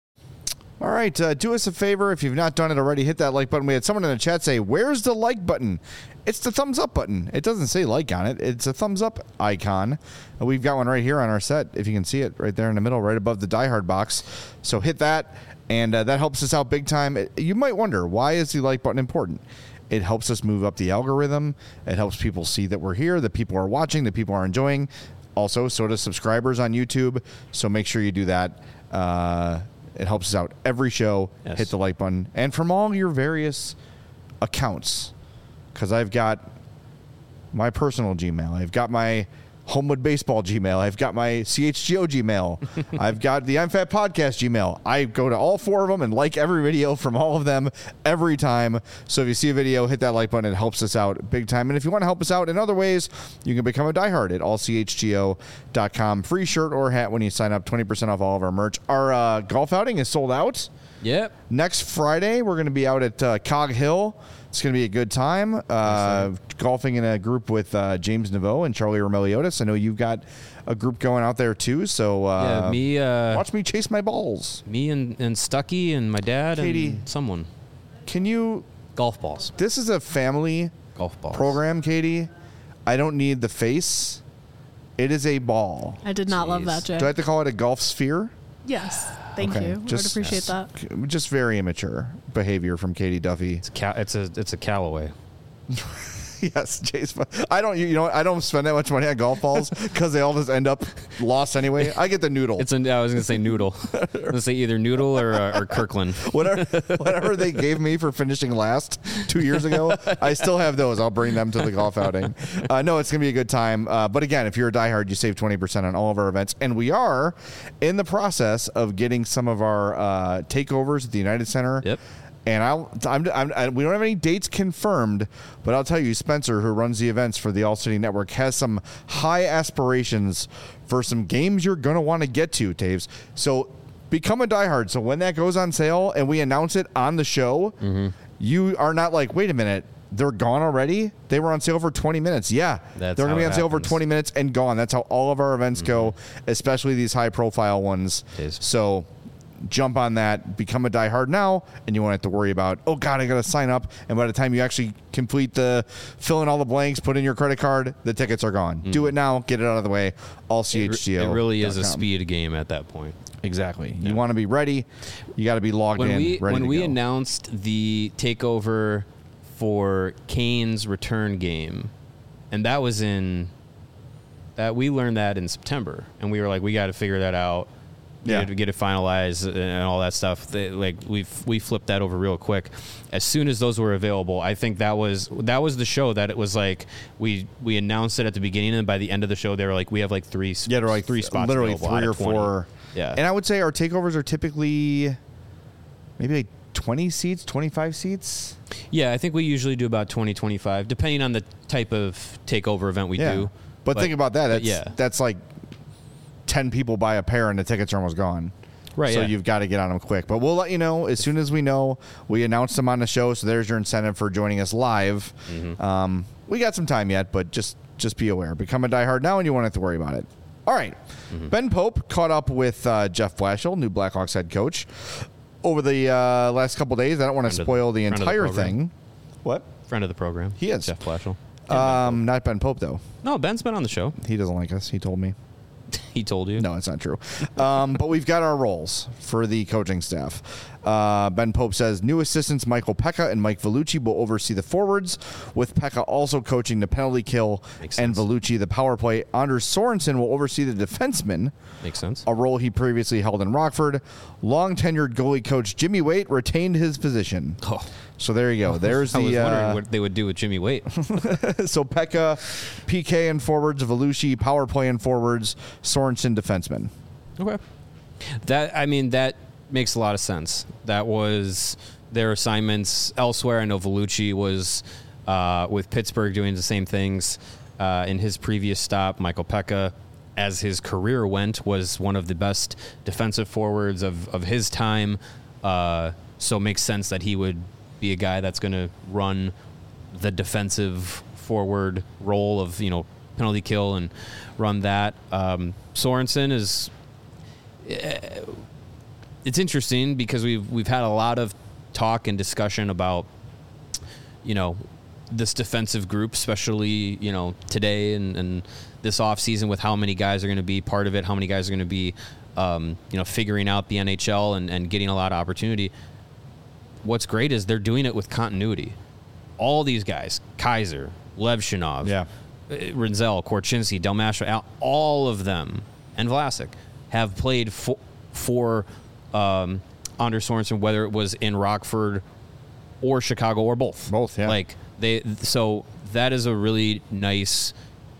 All right, uh, do us a favor. If you've not done it already, hit that like button. We had someone in the chat say, where's the like button? It's the thumbs up button. It doesn't say like on it. It's a thumbs up icon. Uh, We've got one right here on our set, if you can see it, right there in the middle, right above the Die Hard box. So hit that, and uh, that helps us out big time. It, you might wonder, why is the like button important? It helps us move up the algorithm. It helps people see that we're here, that people are watching, that people are enjoying. Also, so does subscribers on YouTube. So make sure you do that. Uh, it helps us out every show. Yes. Hit the like button. And from all your various accounts, because I've got my personal Gmail. I've got my Homewood Baseball Gmail. I've got my C H G O Gmail. I've got the I'm Fat Podcast Gmail. I go to all four of them and like every video from all of them every time. So if you see a video, hit that like button. It helps us out big time. And if you want to help us out in other ways, you can become a diehard at all c h g o dot com. Free shirt or hat when you sign up. twenty percent off all of our merch. Our uh, golf outing is sold out. Yep. Next Friday, we're going to be out at uh, Cog Hill. It's going to be a good time. Uh, golfing in a group with uh, James Naveau and Charlie Romeliotis. I know you've got a group going out there too. So uh, Yeah, me, uh, watch me chase my balls. me and, and Stucky and my dad Katie. and someone. Can you? Golf balls. This is a family Golf balls. program, Katie. I don't need the face. It is a ball. I did not love Jeez. that, Jay. Do I have to call it a golf sphere? Yes. Thank Okay, you. I would just- appreciate that. Just very immature behavior from Katie Duffy. It's a, Ca- it's a, it's a Callaway. Yes, Chase. I don't. You know, what? I don't spend that much money on golf balls because they all just end up lost anyway. I get the noodle. It's a, I was going to say noodle. I was going to say either noodle or, uh, or Kirkland. whatever, whatever they gave me for finishing last two years ago, I still have those. I'll bring them to the golf outing. Uh, no, it's gonna be a good time. Uh, but again, if you're a diehard, you save twenty percent on all of our events, and we are in the process of getting some of our uh, takeovers at the United Center. Yep. And I'll, I'm, I'm, I, we don't have any dates confirmed, but I'll tell you, Spencer, who runs the events for the All City Network, has some high aspirations for some games you're going to want to get to, Taves. So become a diehard. So when that goes on sale and we announce it on the show, Mm-hmm. you are not like, wait a minute, they're gone already? They were on sale for twenty minutes. Yeah, That's they're going to how be it on sale for happens. twenty minutes and gone. That's how all of our events go, especially these high-profile ones. It is. So jump on that, become a diehard now, and you won't have to worry about, oh, God, I got to sign up. And by the time you actually complete the, fill in all the blanks, put in your credit card, the tickets are gone. Do it now. Get it out of the way. All C H G O. It really is a speed game at that point. Exactly. You want to be ready. You got to be logged When in, we ready when to we go. announced the takeover for Kane's return game, and that was in that we learned that in September, and we were like, we got to figure that out Yeah. to get it finalized and all that stuff. They, like we we flipped that over real quick. As soon as those were available, I think that was that was the show that it was like we we announced it at the beginning, and by the end of the show, they were like, we have like three Yeah, they're like three spots, literally available three out or of twenty. four. Yeah, And I would say our takeovers are typically maybe like twenty seats, twenty-five seats. yeah. I think we usually do about twenty, twenty-five, depending on the type of takeover event we Yeah. do. But, think about that. That's, yeah. that's like ten people buy a pair and the tickets are almost gone. Right, So yeah. you've got to get on them quick. But we'll let you know as soon as we know. We announced them on the show, so there's your incentive for joining us live. Mm-hmm. Um, we got some time yet, but just just be aware. Become a diehard now, and you won't have to worry about it. All right. Mm-hmm. Ben Pope caught up with uh, Jeff Blashill, new Blackhawks head coach, over the uh, last couple days. I don't want to Friend of the- spoil the friend of the entire program. thing. What? Friend of the program. He is. Jeff Blashill. Um, not Ben Pope, though. No, Ben's been on the show. He doesn't like us. He told me. He told you. No, it's not true. Um, but we've got our roles for the coaching staff. Uh, Ben Pope says new assistants Michael Pekka and Mike Vellucci will oversee the forwards, with Pekka also coaching the penalty kill Makes and sense. Vellucci the power play. Anders Sorensen will oversee the defensemen, Makes sense. a role he previously held in Rockford. Long-tenured goalie coach Jimmy Waite retained his position. Oh. So there you go. There's I was the wondering uh, what they would do with Jimmy Waite. so Pekka, P K and forwards, Vellucci power play and forwards, Sorensen defenseman. Okay. That I mean that makes a lot of sense. That was their assignments elsewhere. I know Vellucci was uh, with Pittsburgh doing the same things uh, in his previous stop. Michael Pekka, as his career went, was one of the best defensive forwards of, of his time. Uh, so it makes sense that he would be a guy that's going to run the defensive forward role of, you know, penalty kill and run that. Um, Sorensen is... It's interesting because we've we've had a lot of talk and discussion about, you know, this defensive group, especially, you know, today and, and this offseason with how many guys are going to be part of it, how many guys are going to be, um, you know, figuring out the N H L and, and getting a lot of opportunity. What's great is they're doing it with continuity. All these guys, Kaiser, Levshinov, Yeah. Rinzel, Korchinski, Delmasha, Al- all of them, and Vlasic, have played for, for um, Anders Sorensen, whether it was in Rockford or Chicago or both. Both, yeah. Like they, so that is a really nice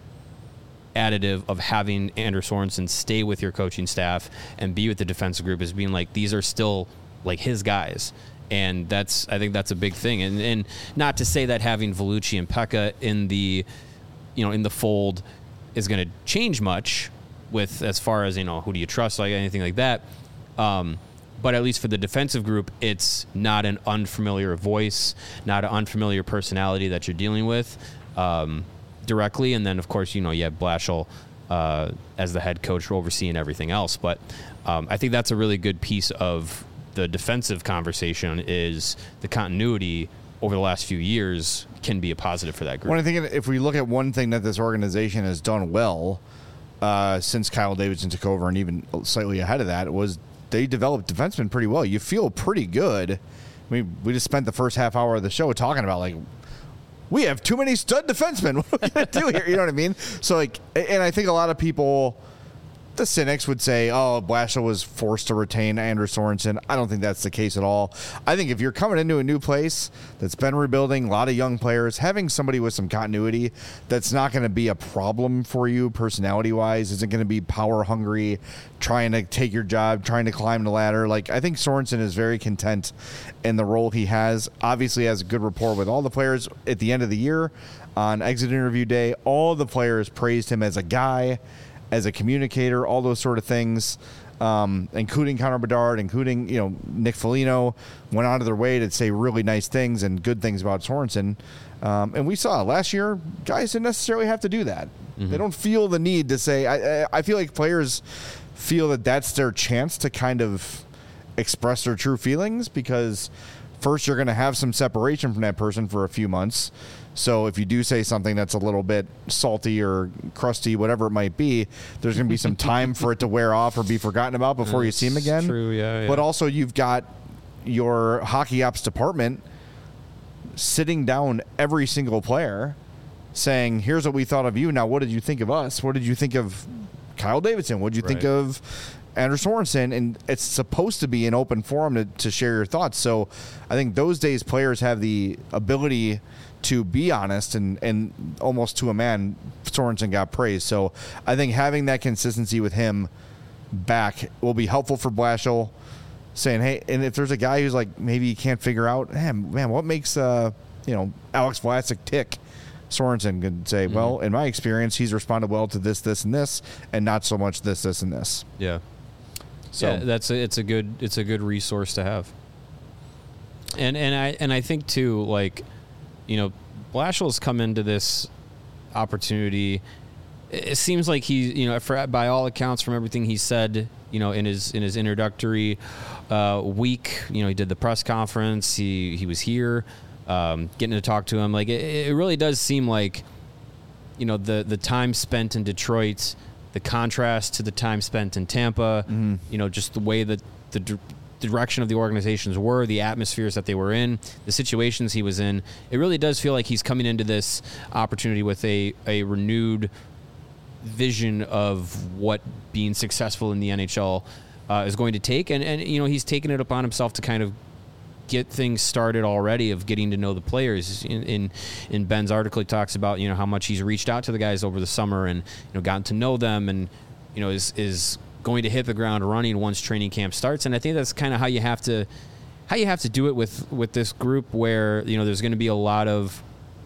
additive of having Anders Sorensen stay with your coaching staff and be with the defensive group, is being like, these are still like his guys. And that's, I think that's a big thing. And and not to say that having Vellucci and Pekka in the, you know, in the fold is going to change much with, as far as, you know, who do you trust, like anything like that. Um, but at least for the defensive group, it's not an unfamiliar voice, not an unfamiliar personality that you're dealing with um, directly. And then, of course, you know, you have Blashill uh, as the head coach overseeing everything else. But um, I think that's a really good piece of the defensive conversation, is the continuity over the last few years can be a positive for that group. When I think if we look at one thing that this organization has done well uh, since Kyle Davidson took over, and even slightly ahead of that, was they developed defensemen pretty well. You feel pretty good. I mean, we just spent the first half hour of the show talking about, like, we have too many stud defensemen. What are we going to do here? You know what I mean? So, like, and I think a lot of people, the cynics, would say, oh, Blashill was forced to retain Anders Sorensen. I don't think that's the case at all. I think if you're coming into a new place that's been rebuilding, a lot of young players, having somebody with some continuity that's not going to be a problem for you personality-wise, isn't going to be power-hungry, trying to take your job, trying to climb the ladder. Like, I think Sorensen is very content in the role he has. Obviously has a good rapport with all the players. At the end of the year, on exit interview day, all the players praised him as a guy, as a communicator, all those sort of things, um, including Connor Bedard, including, you know, Nick Foligno, went out of their way to say really nice things and good things about Sorensen. Um, and we saw last year, guys didn't necessarily have to do that. Mm-hmm. They don't feel the need to say, I, I feel like players feel that that's their chance to kind of express their true feelings, because first you're going to have some separation from that person for a few months. So if you do say something that's a little bit salty or crusty, whatever it might be, there's going to be some time for it to wear off or be forgotten about before you see him again. True, yeah, yeah. But also you've got your hockey ops department sitting down every single player saying, here's what we thought of you. Now, what did you think of us? What did you think of Kyle Davidson? What'd you think Right. of Anders Sorensen? And it's supposed to be an open forum to, to share your thoughts. So I think those days players have the ability to be honest, and, and almost to a man, Sorensen got praised. So I think having that consistency with him back will be helpful for Blashill, saying, hey, and if there's a guy who's like, maybe he can't figure out, man, man what makes, uh, you know, Alex Vlasic tick? Sorensen could say, mm-hmm. well, in my experience, he's responded well to this, this, and this, and not so much this, this, and this. Yeah. So yeah, that's a, it's a good it's a good resource to have. And and I and I think too, like, you know, Blashill's come into this opportunity. It seems like he, you know, for, by all accounts, from everything he said, you know, in his in his introductory uh, week, you know, he did the press conference. He he was here, um, getting to talk to him. Like it, it really does seem like, you know, the the time spent in Detroit, the contrast to the time spent in Tampa, mm-hmm. you know, just the way that the d- direction of the organizations were, the atmospheres that they were in, the situations he was in. It really does feel like he's coming into this opportunity with a, a renewed vision of what being successful in the N H L uh, is going to take. And, and, you know, he's taken it upon himself to kind of get things started already of getting to know the players. In, in in Ben's article, he talks about, you know, how much he's reached out to the guys over the summer and, you know, gotten to know them and, you know, is is going to hit the ground running once training camp starts. And I think that's kind of how you have to how you have to do it with with this group, where, you know, there's going to be a lot of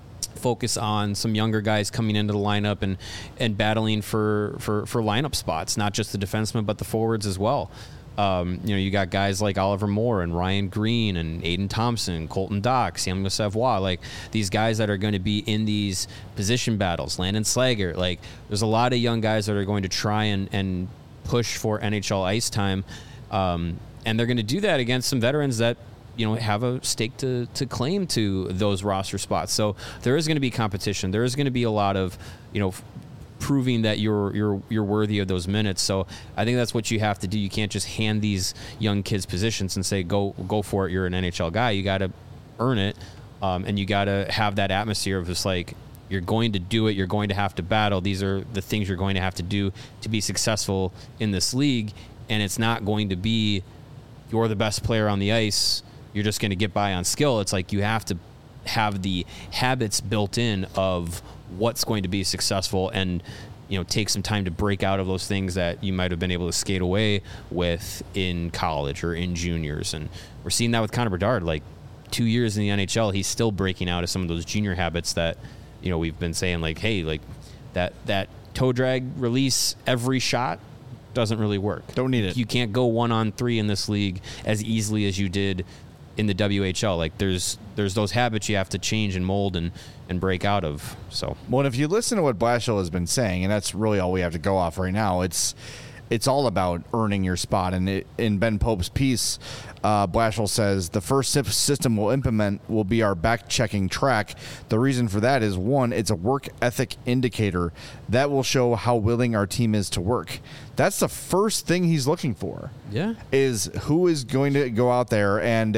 focus on some younger guys coming into the lineup and and battling for for for lineup spots, not just the defensemen but the forwards as well. Um, you know, you got guys like Oliver Moore and Ryan Green and Aiden Thompson, Colton Dock, Samuel Savoie, like these guys that are going to be in these position battles. Landon Slager, like there's a lot of young guys that are going to try and, and push for N H L ice time, um, and they're going to do that against some veterans that, you know, have a stake to, to claim to those roster spots. So there is going to be competition. There is going to be a lot of, you know, proving that you're you're you're worthy of those minutes. So I think that's what you have to do. You can't just hand these young kids positions and say go go for it. You're an N H L guy. You got to earn it, um, and you got to have that atmosphere of just like, you're going to do it. You're going to have to battle. These are the things you're going to have to do to be successful in this league. And it's not going to be you're the best player on the ice, you're just going to get by on skill. It's like you have to have the habits built in of what's going to be successful, and, you know, take some time to break out of those things that you might have been able to skate away with in college or in juniors. And we're seeing that with Connor Bedard. Like, two years in the N H L, he's still breaking out of some of those junior habits that, you know, we've been saying, like, hey, like that that toe drag release every shot doesn't really work. Don't need it. You can't go one on three in this league as easily as you did in the W H L. Like there's there's those habits you have to change and mold and and break out of. So, well, and if you listen to what Blashill has been saying, and that's really all we have to go off right now, it's it's all about earning your spot. And it, in Ben Pope's piece, uh, Blashill says the first system we'll implement will be our back-checking track. The reason for that is, one, it's a work ethic indicator that will show how willing our team is to work. That's the first thing he's looking for. Yeah, is who is going to go out there and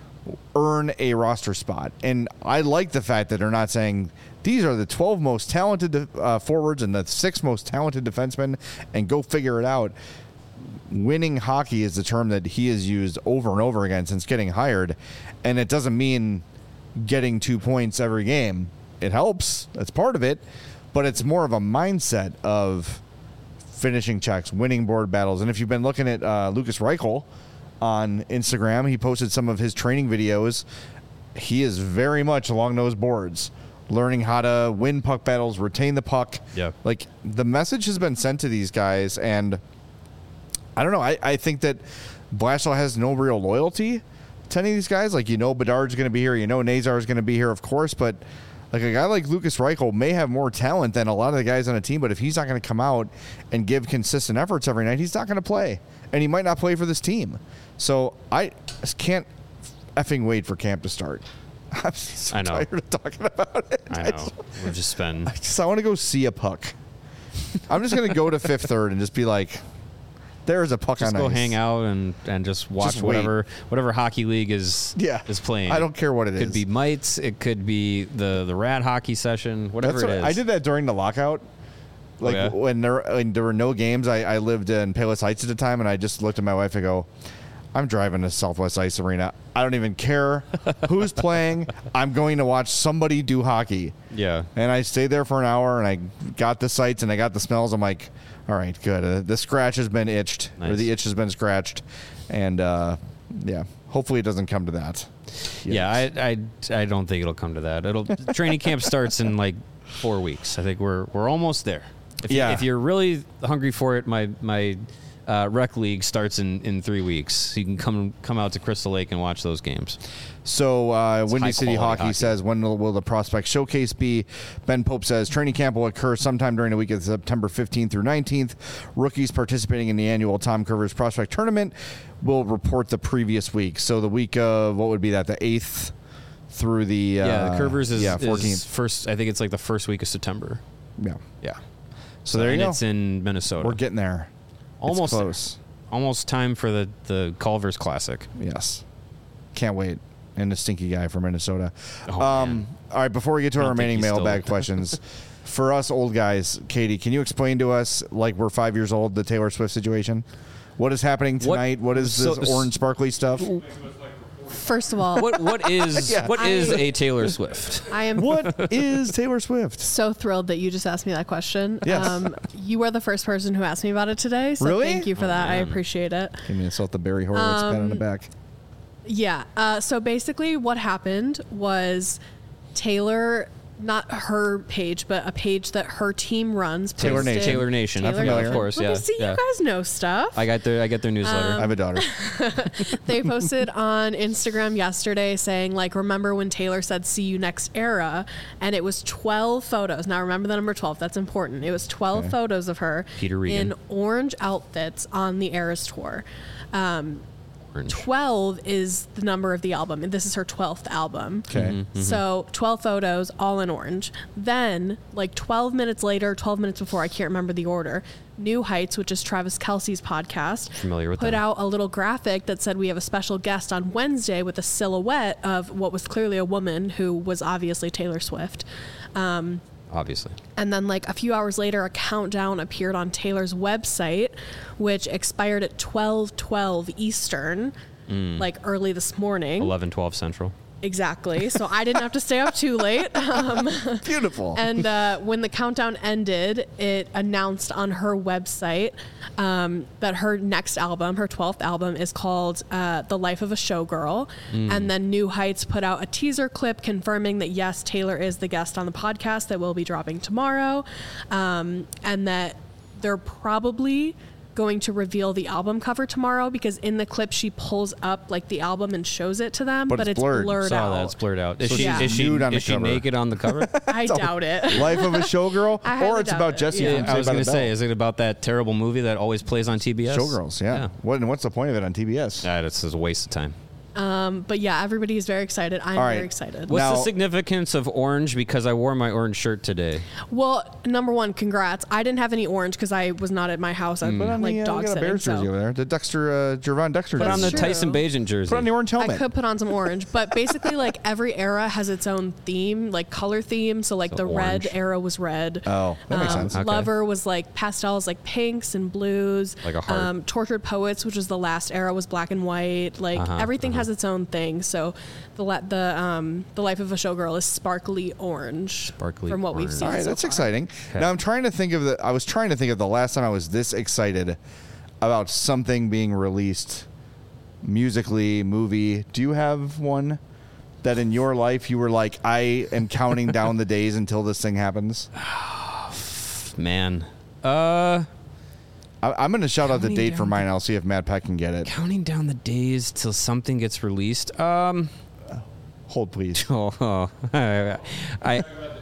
earn a roster spot. And I like the fact that they're not saying these are the twelve most talented uh, forwards and the six most talented defensemen and go figure it out. Winning hockey is the term that he has used over and over again since getting hired. And it doesn't mean getting two points every game. It helps. That's part of it. But it's more of a mindset of finishing checks, winning board battles. And if you've been looking at uh, Lucas Reichel on Instagram, he posted some of his training videos. He is very much along those boards, learning how to win puck battles, retain the puck. Yeah. Like, the message has been sent to these guys, and I don't know. I, I think that Blashill has no real loyalty to any of these guys. Like, you know, Bedard's going to be here. You know, Nazar is going to be here, of course, but like a guy like Lucas Reichel may have more talent than a lot of the guys on a team, but if he's not going to come out and give consistent efforts every night, he's not going to play. And he might not play for this team. So I just can't effing wait for camp to start. I'm so I know. tired of talking about it. I know. We've just been... I just I want to go see a puck. I'm just going to go to Fifth Third and just be like, there is a puck just on go ice. hang out and, and just watch Just whatever whatever hockey league is Yeah. is playing. I don't care what it It is. could be mites. It could be the, the rad hockey session, whatever That's it what- is. I did that during the lockout. Like yeah? when there when there were no games, I, I lived in Palos Heights at the time, and I just looked at my wife and go, I'm driving to Southwest Ice Arena. I don't even care who's playing. I'm going to watch somebody do hockey. Yeah. And I stayed there for an hour, and I got the sights and I got the smells. I'm like, all right, good. Uh, the scratch has been itched, Nice. or the itch has been scratched, and uh, yeah, hopefully it doesn't come to that. Yeah, I, I, I don't think it'll come to that. It'll training camp starts in like four weeks. I think we're we're almost there. If Yeah. You, if you're really hungry for it, my my uh, rec league starts in, in three weeks. So you can come come out to Crystal Lake and watch those games. So uh, Windy high City quality Hockey, hockey. says, when will, will the prospect showcase be? Ben Pope says training camp will occur sometime during the week of September fifteenth through nineteenth. Rookies participating in the annual Tom Curvers Prospect Tournament will report the previous week. So the week of, what would be that, the eighth through the... Uh, yeah, the Curvers is, yeah, fourteenth. is first. I think it's like the first week of September. Yeah. Yeah. So there you and go. it's in Minnesota. We're getting there. almost It's close. Almost time for the the Culver's Classic. Yes. Can't wait. And the stinky guy from Minnesota. Oh, um, man. all right, before we get to I our don't think remaining he's still- mailbag questions, for us old guys, Katie, can you explain to us, like we're five years old, the Taylor Swift situation? What is happening What- tonight? What is so- this orange sparkly stuff? First of all, What what is Yeah. what is I- a Taylor Swift? I am What is Taylor Swift? so thrilled that you just asked me that question. Yes. Um, you are the first person who asked me about it today, so Really? thank you for that. I man. appreciate it. Give me insult the Barry Horowitz pat on the Um, back. Yeah. Uh, so basically, what happened was Taylor, not her page, but a page that her team runs. Taylor posted- Nation. Taylor Nation. Taylor familiar. Nation. Of course, Look, yeah, See, yeah. you guys know stuff. I got their I get their newsletter. I have a daughter. They posted on Instagram yesterday saying, like, remember when Taylor said, see you next era? And it was twelve photos. Now, remember the number twelve. That's important. It was twelve Okay. photos of her Peter Regan. in orange outfits on the Eras tour. Um, Orange. twelve is the number of the album, and this is her twelfth album. Okay. So twelve photos, all in orange. Then, like twelve minutes later, twelve minutes before, I can't remember the order, New Heights, which is Travis Kelce's podcast, Familiar with put them. out a little graphic that said we have a special guest on Wednesday with a silhouette of what was clearly a woman who was obviously Taylor Swift. Um, Obviously. and then, like a few hours later, a countdown appeared on Taylor's website, which expired at twelve twelve Eastern, like early this morning. eleven twelve Central. Exactly. So I didn't have to stay up too late. Um, Beautiful. and uh, when the countdown ended, it announced on her website um, that her next album, her twelfth album, is called uh, The Life of a Showgirl. And then New Heights put out a teaser clip confirming that, yes, Taylor is the guest on the podcast that will be dropping tomorrow. Um, and that they're probably going to reveal the album cover tomorrow, because in the clip she pulls up like the album and shows it to them, But but, it's it's blurred. blurred, Saw out. that. It's blurred out. Is So she she's is she, nude on the is she cover. naked on the cover? I doubt it. Life of a Showgirl? I highly Or it's doubt about it. Jesse Yeah. from I Saved was by going the to say, Bell. is it about that terrible movie that always plays on T B S? Showgirls, yeah. What, and what's the point of it on T B S? Yeah, it's just a waste of time. Um, but yeah, everybody is very excited. I'm All right. very excited. What's Now- the significance of orange? Because I wore my orange shirt today. Well, number one, congrats. I didn't have any orange because I was not at my house. I Put was on like the, uh, dog we got a sitting. Bears jersey So over there. The Dexter, uh, Jervon Dexter Put jersey. on the true. Tyson Bagent jersey. Put on the orange I helmet. could put on some orange, but basically, like every era has its own theme, like color theme. So, like So the orange. red era was red. Oh, that makes Um, sense. Okay. Lover was like pastels, like pinks and blues. Like a heart. Um, Tortured Poets, which was the last era, was black and white. Like Uh-huh, everything uh-huh. has its own thing. So, the la- the um, the Life of a Showgirl is sparkly orange. Sparkly from what we've orange. seen. All right, so that's far. exciting. Okay. Now I'm trying to think of the. I was trying to think of the last time I was this excited about something being released, musically, movie. Do you have one that in your life you were like, I am counting down the days until this thing happens? Man. Uh, I, I'm going to shout out the Counting date for down mine. I'll see if Matt Peck can get it. counting down the days till something gets released. Um, Hold, please. oh, I, I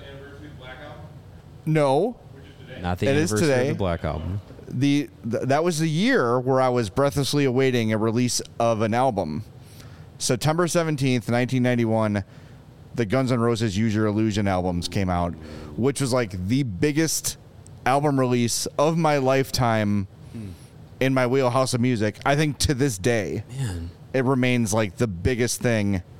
No, not the It is anniversary today. of the Black Album. the th- that was the year where I was breathlessly awaiting a release of an album. September seventeenth, nineteen ninety-one, the Guns N' Roses Use Your Illusion albums came out, which was like the biggest album release of my lifetime in my wheelhouse of music. I think to this day, Man. it remains like the biggest thing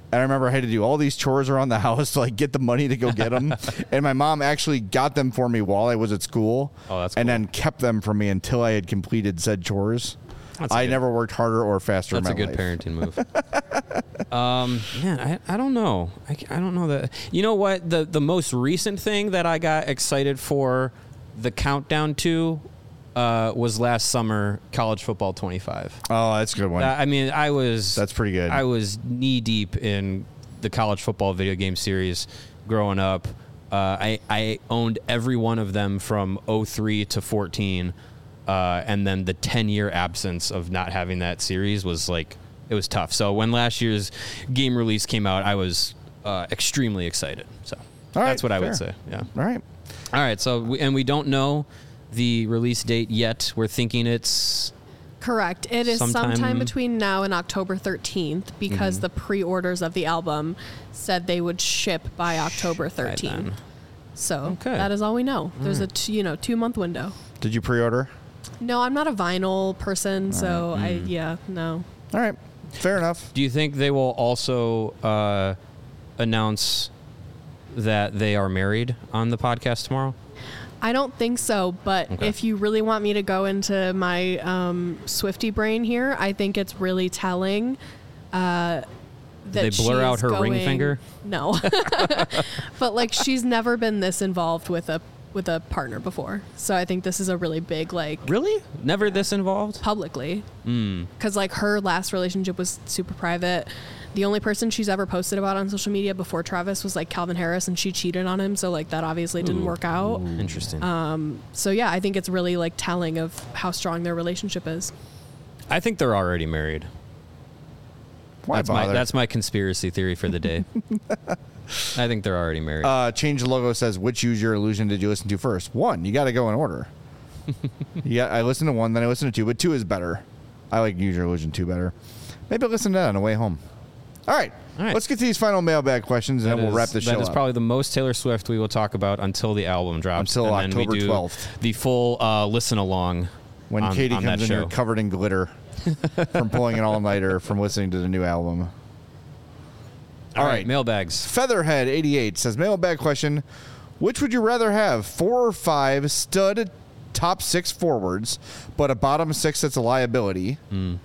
And I remember I had to do all these chores around the house to like get the money to go get them. And my mom actually got them for me while I was at school. Oh, that's and cool. then kept them for me until I had completed said chores. That's a I good- never worked harder or faster That's a in my good life. parenting move. um, man, I, I don't know. I, I don't know that. You know what? The the most recent thing that I got excited for the countdown to uh, was last summer, College Football twenty-five. Oh, that's a good one. Uh, I mean, I was That's pretty good. I was knee deep in the college football video game series growing up. Uh, I I owned every one of them from oh three to fourteen. Uh, and then the ten year absence of not having that series was like, it was tough. So when last year's game release came out, I was uh, extremely excited. So All right, that's what I fair. would say. Yeah. All right. All right. So, we, and we don't know the release date yet. We're thinking it's Correct. It is sometime, Sometime- between now and October thirteenth because Mm-hmm. the pre-orders of the album said they would ship by October by thirteenth. then. So Okay. that is all we know. There's a t- you know two month window. Did you pre-order? No, I'm not a vinyl person, so I Mm. yeah no. All right. Fair enough. Do you think they will also uh, announce that they are married on the podcast tomorrow? I don't think so, but Okay. if you really want me to go into my um, Swiftie brain here, I think it's really telling. Uh, that they blur she out is her ring going- finger? No, but like she's never been this involved with a with a partner before, so I think this is a really big like Really? Never this involved? publicly Mm. because like her last relationship was super private. The only person she's ever posted about on social media before Travis was like Calvin Harris, and she cheated on him, so like that obviously didn't Ooh. work out. Interesting. So yeah, I think it's really like telling of how strong their relationship is. I think they're already married. Why That's my bother? that's my conspiracy theory for the day. I think they're already married. Uh, Change the Logo says, which Use Your Illusion did you listen to first? One. You got to go in order. Yeah, I listened to one, then I listened to two, but two is better. I like Use Your Illusion two better. Maybe I'll listen to that on the way home. All right. All right. Let's get to these final mailbag questions, and That then we'll is- wrap the show That is up. probably the most Taylor Swift we will talk about until the album drops. Until and then we October do twelfth. The full uh, listen along. when on, Katie on comes that in show. here covered in glitter from pulling an all-nighter from listening to the new album. All All right, right. mailbags. Featherhead eighty-eight says, mailbag question, which would you rather have, four or five stud top six forwards, but a bottom six that's a liability,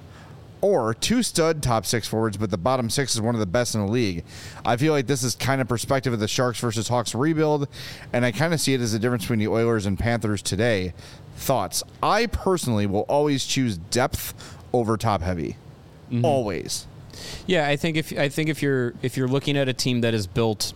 or two stud top six forwards, but the bottom six is one of the best in the league? I feel like this is kind of perspective of the Sharks versus Hawks rebuild, and I kind of see it as a difference between the Oilers and Panthers today. Thoughts? I personally will always choose depth over top heavy. Always. Yeah, I think if I think if you're if you're looking at a team that is built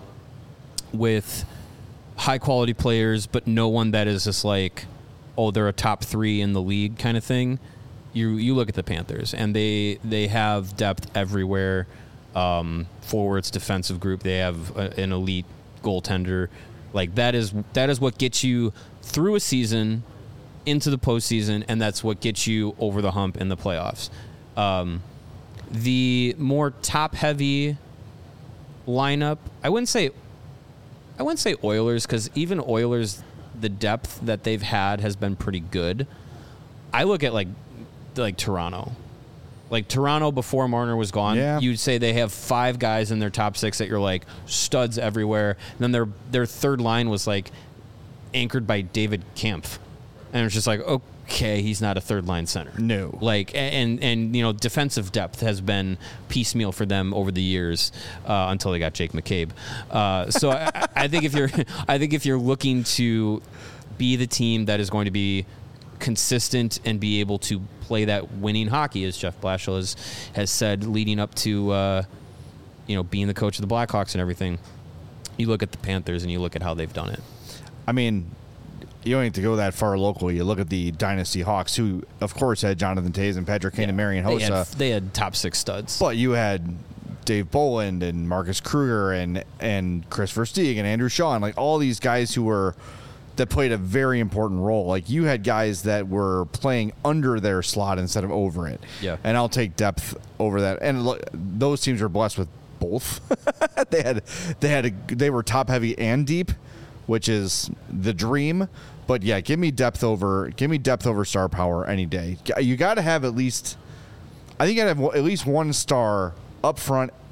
with high quality players, but no one that is just like, oh, they're a top three in the league kind of thing. You you look at the Panthers, and they they have depth everywhere. Um, forwards, defensive group. They have a, an elite goaltender. Like that is that is what gets you through a season, into the postseason, and that's what gets you over the hump in the playoffs. Um, the more top-heavy lineup, I wouldn't say, I wouldn't say Oilers, because even Oilers, the depth that they've had has been pretty good. I look at like, like Toronto, like Toronto before Marner was gone. Yeah. You'd say they have five guys in their top six that you're like studs everywhere. And then their their third line was like anchored by David Kampf, and it's just like, okay, he's not a third line center. No. Like, and, and, you know, defensive depth has been piecemeal for them over the years, uh, until they got Jake McCabe. Uh, so I, I think if you're, I think if you're looking to be the team that is going to be consistent and be able to play that winning hockey, as Jeff Blashill has, has said, leading up to, uh, you know, being the coach of the Blackhawks and everything, you look at the Panthers and you look at how they've done it. I mean, you don't need to go that far locally. You look at the Dynasty Hawks, who, of course, had Jonathan Toews and Patrick Kane and Marian They had, Hossa. they had top six studs. But you had Dave Boland and Marcus Kruger and and Chris Versteeg and Andrew Shaw, and like all these guys who were that played a very important role. Like you had guys that were playing under their slot instead of over it. Yeah. And I'll take depth over that. And look, those teams were blessed with both. they had they had a, they were top heavy and deep, which is the dream. But yeah, give me depth over give me depth over star power any day. You got to have at least, I think you got to have at least one star up front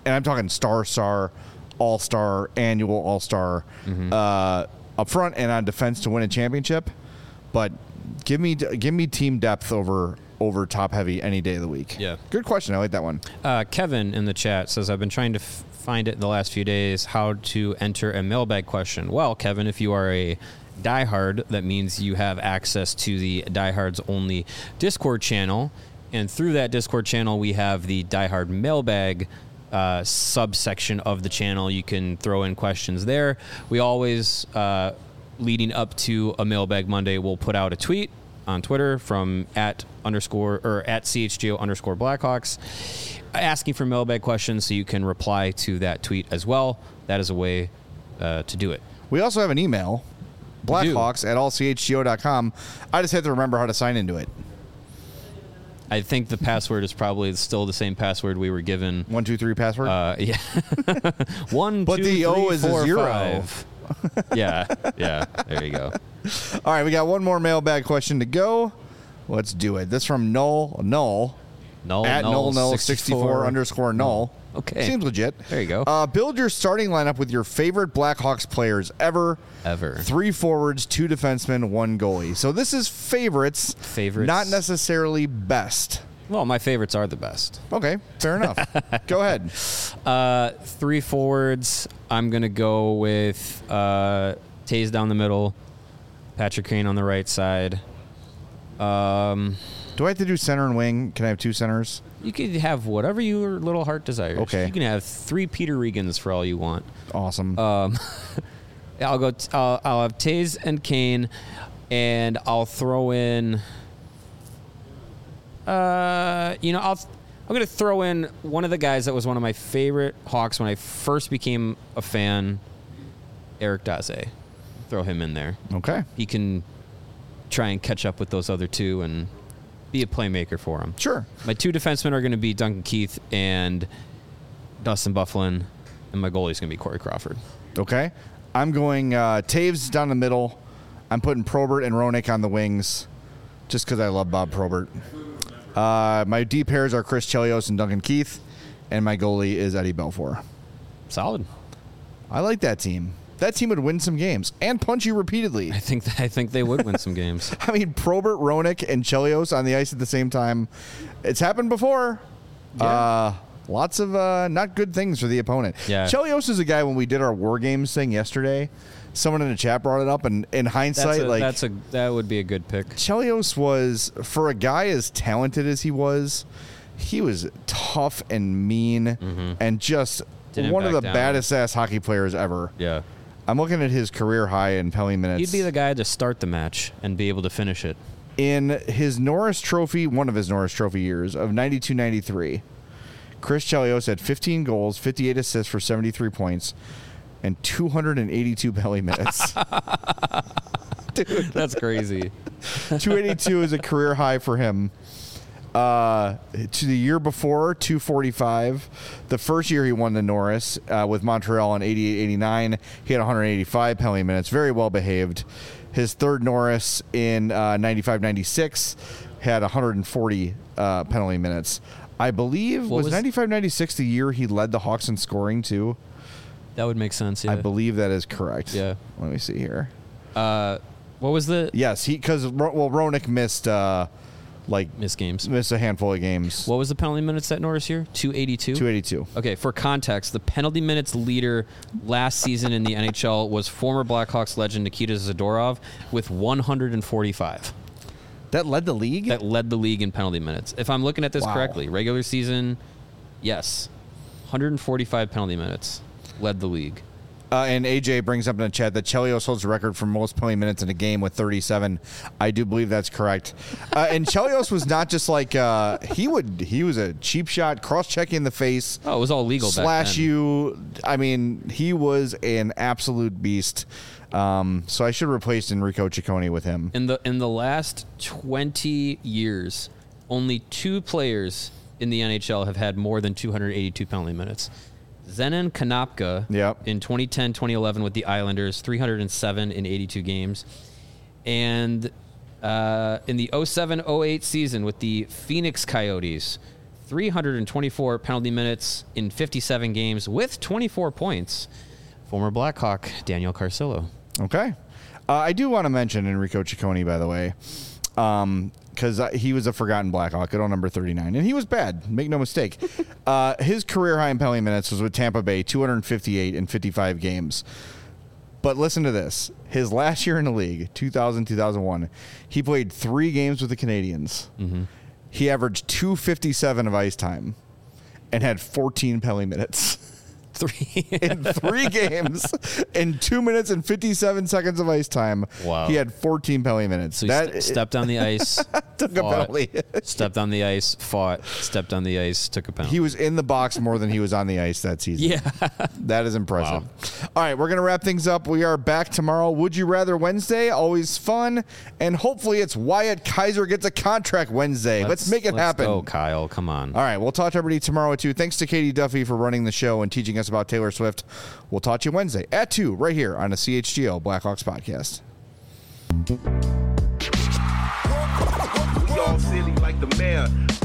and I'm talking star, star, all star, annual all star, mm-hmm. uh, up front and on defense to win a championship. But give me give me team depth over over top heavy any day of the week. Yeah, good question. I like that one. Uh, Kevin in the chat says, I've been trying to f- find it in the last few days how to enter a mailbag question. Well, Kevin, if you are a diehard, that means you have access to the Diehards Only Discord channel. And through that Discord channel, we have the Diehard Mailbag uh, subsection of the channel. You can throw in questions there. We always, uh, leading up to a Mailbag Monday, we'll put out a tweet on Twitter from at underscore or at C H G O underscore Blackhawks asking for mailbag questions, so you can reply to that tweet as well. That is a way uh, to do it. We also have an email. Blackhawks at all c h g o dot com. I just have to remember how to sign into it. I think the password is probably still the same password we were given. One, two, three password? Uh, yeah. One, but two, the three, O is four, a zero. Five. yeah, yeah. There you go. All right, we got one more mailbag question to go. Let's do it. This from Null, Null. Null, at null, null null sixty-four underscore null. Okay. Seems legit. There you go. Uh, build your starting lineup with your favorite Blackhawks players ever. Ever. Three forwards, two defensemen, one goalie. So this is favorites. Favorites. Not necessarily best. Well, my favorites are the best. Okay, fair enough. Go ahead. Uh, three forwards. I'm going to go with uh, Taze down the middle, Patrick Kane on the right side. Um, Do I have to do center and wing? Can I have two centers? You could have whatever your little heart desires. Okay. You can have three Peter Regans for all you want. Awesome. Um, I'll go. T- I'll, I'll have Taze and Kane, and I'll throw in. Uh, you know, I'll. I'm gonna throw in one of the guys that was one of my favorite Hawks when I first became a fan, Eric Daze. Throw him in there. Okay. He can try and catch up with those other two and be a playmaker for him. Sure. My two defensemen are going to be Duncan Keith and Dustin Byfuglien, and my goalie is going to be Corey Crawford. Okay. I'm going uh, Taves down the middle. I'm putting Probert and Roenick on the wings just because I love Bob Probert. Uh, my D pairs are Chris Chelios and Duncan Keith, and my goalie is Eddie Belfour. Solid. I like that team. That team would win some games and punch you repeatedly. I think th- I think they would win some games. I mean, Probert, Roenick, and Chelios on the ice at the same time. It's happened before. Yeah. Uh, lots of uh, not good things for the opponent. Yeah. Chelios is a guy when we did our War Games thing yesterday. Someone in the chat brought it up, and in hindsight, That's a, like that's a that would be a good pick. Chelios was, for a guy as talented as he was, he was tough and mean Mm-hmm. and just Didn't one of back the down. baddest ass hockey players ever. Yeah. I'm looking at his career high in penalty minutes. He'd be the guy to start the match and be able to finish it. In his Norris Trophy, one of his Norris Trophy years of ninety-two ninety-three, Chris Chelios had fifteen goals, fifty-eight assists for seventy-three points, and two hundred eighty-two penalty minutes. Dude, that's crazy. two eighty-two is a career high for him. Uh, to the year before, two forty-five. The first year he won the Norris uh, with Montreal in eighty-eight eighty-nine, he had one hundred eighty-five penalty minutes, very well behaved. His third Norris in uh, ninety-five ninety-six had one hundred forty uh, penalty minutes. I believe, What was was- ninety-five ninety-six the year he led the Hawks in scoring too? That would make sense. Yeah. I believe that is correct. Yeah. Let me see here. Uh, what was the Yes, he because well Roenick missed uh, like missed games? missed a handful of games. What was the penalty minutes that Norris year? two eighty-two. two eighty-two. Okay, for context, the penalty minutes leader last season in the N H L was former Blackhawks legend Nikita Zadorov with one hundred forty-five. That led the league? That led the league in penalty minutes. If I'm looking at this Wow. correctly, regular season, yes, one hundred forty-five penalty minutes led the league. Uh, and A J brings up in the chat that Chelios holds the record for most penalty minutes in a game with thirty-seven. I do believe that's correct. Uh, and Chelios was not just like uh, he would. He was a cheap shot, cross check in the face, Oh, it was all legal back slash then. you. I mean, he was an absolute beast. Um, so I should replace Enrico Ciccone with him. In the in the last twenty years, only two players in the N H L have had more than two hundred eighty-two penalty minutes. Zenon Konopka Yep. in twenty ten twenty eleven with the Islanders, three hundred seven in eighty-two games. And uh, in the oh seven oh eight season with the Phoenix Coyotes, three hundred twenty-four penalty minutes in fifty-seven games with twenty-four points. Former Blackhawk Daniel Carcillo. Okay. Uh, I do want to mention Enrico Ciccone, by the way, because um, he was a forgotten Blackhawk at all number thirty-nine, and he was bad. Make no mistake. uh, his career high in penalty minutes was with Tampa Bay, two hundred fifty-eight in fifty-five games. But listen to this. His last year in the league, two thousand, two thousand one, he played three games with the Canadians. Mm-hmm. He averaged two fifty-seven of ice time and had fourteen penalty minutes. Three in three games, in two minutes and fifty-seven seconds of ice time. Wow. He had fourteen penalty minutes. So he that st- stepped on the ice, took fought, a penalty. stepped on the ice, fought, stepped on the ice, took a penalty. He was in the box more than he was on the ice that season. Yeah. That is impressive. Wow. All right, we're going to wrap things up. We are back tomorrow. Would You Rather Wednesday, always fun. And hopefully it's Wyatt Kaiser gets a contract Wednesday. Let's, let's make it let's happen. Go, Kyle. Come on. All right, we'll talk to everybody tomorrow, too. Thanks to Katie Duffy for running the show and teaching us about Taylor Swift. We'll talk to you Wednesday at two right here on the C H G O Blackhawks podcast. We all silly like the mayor.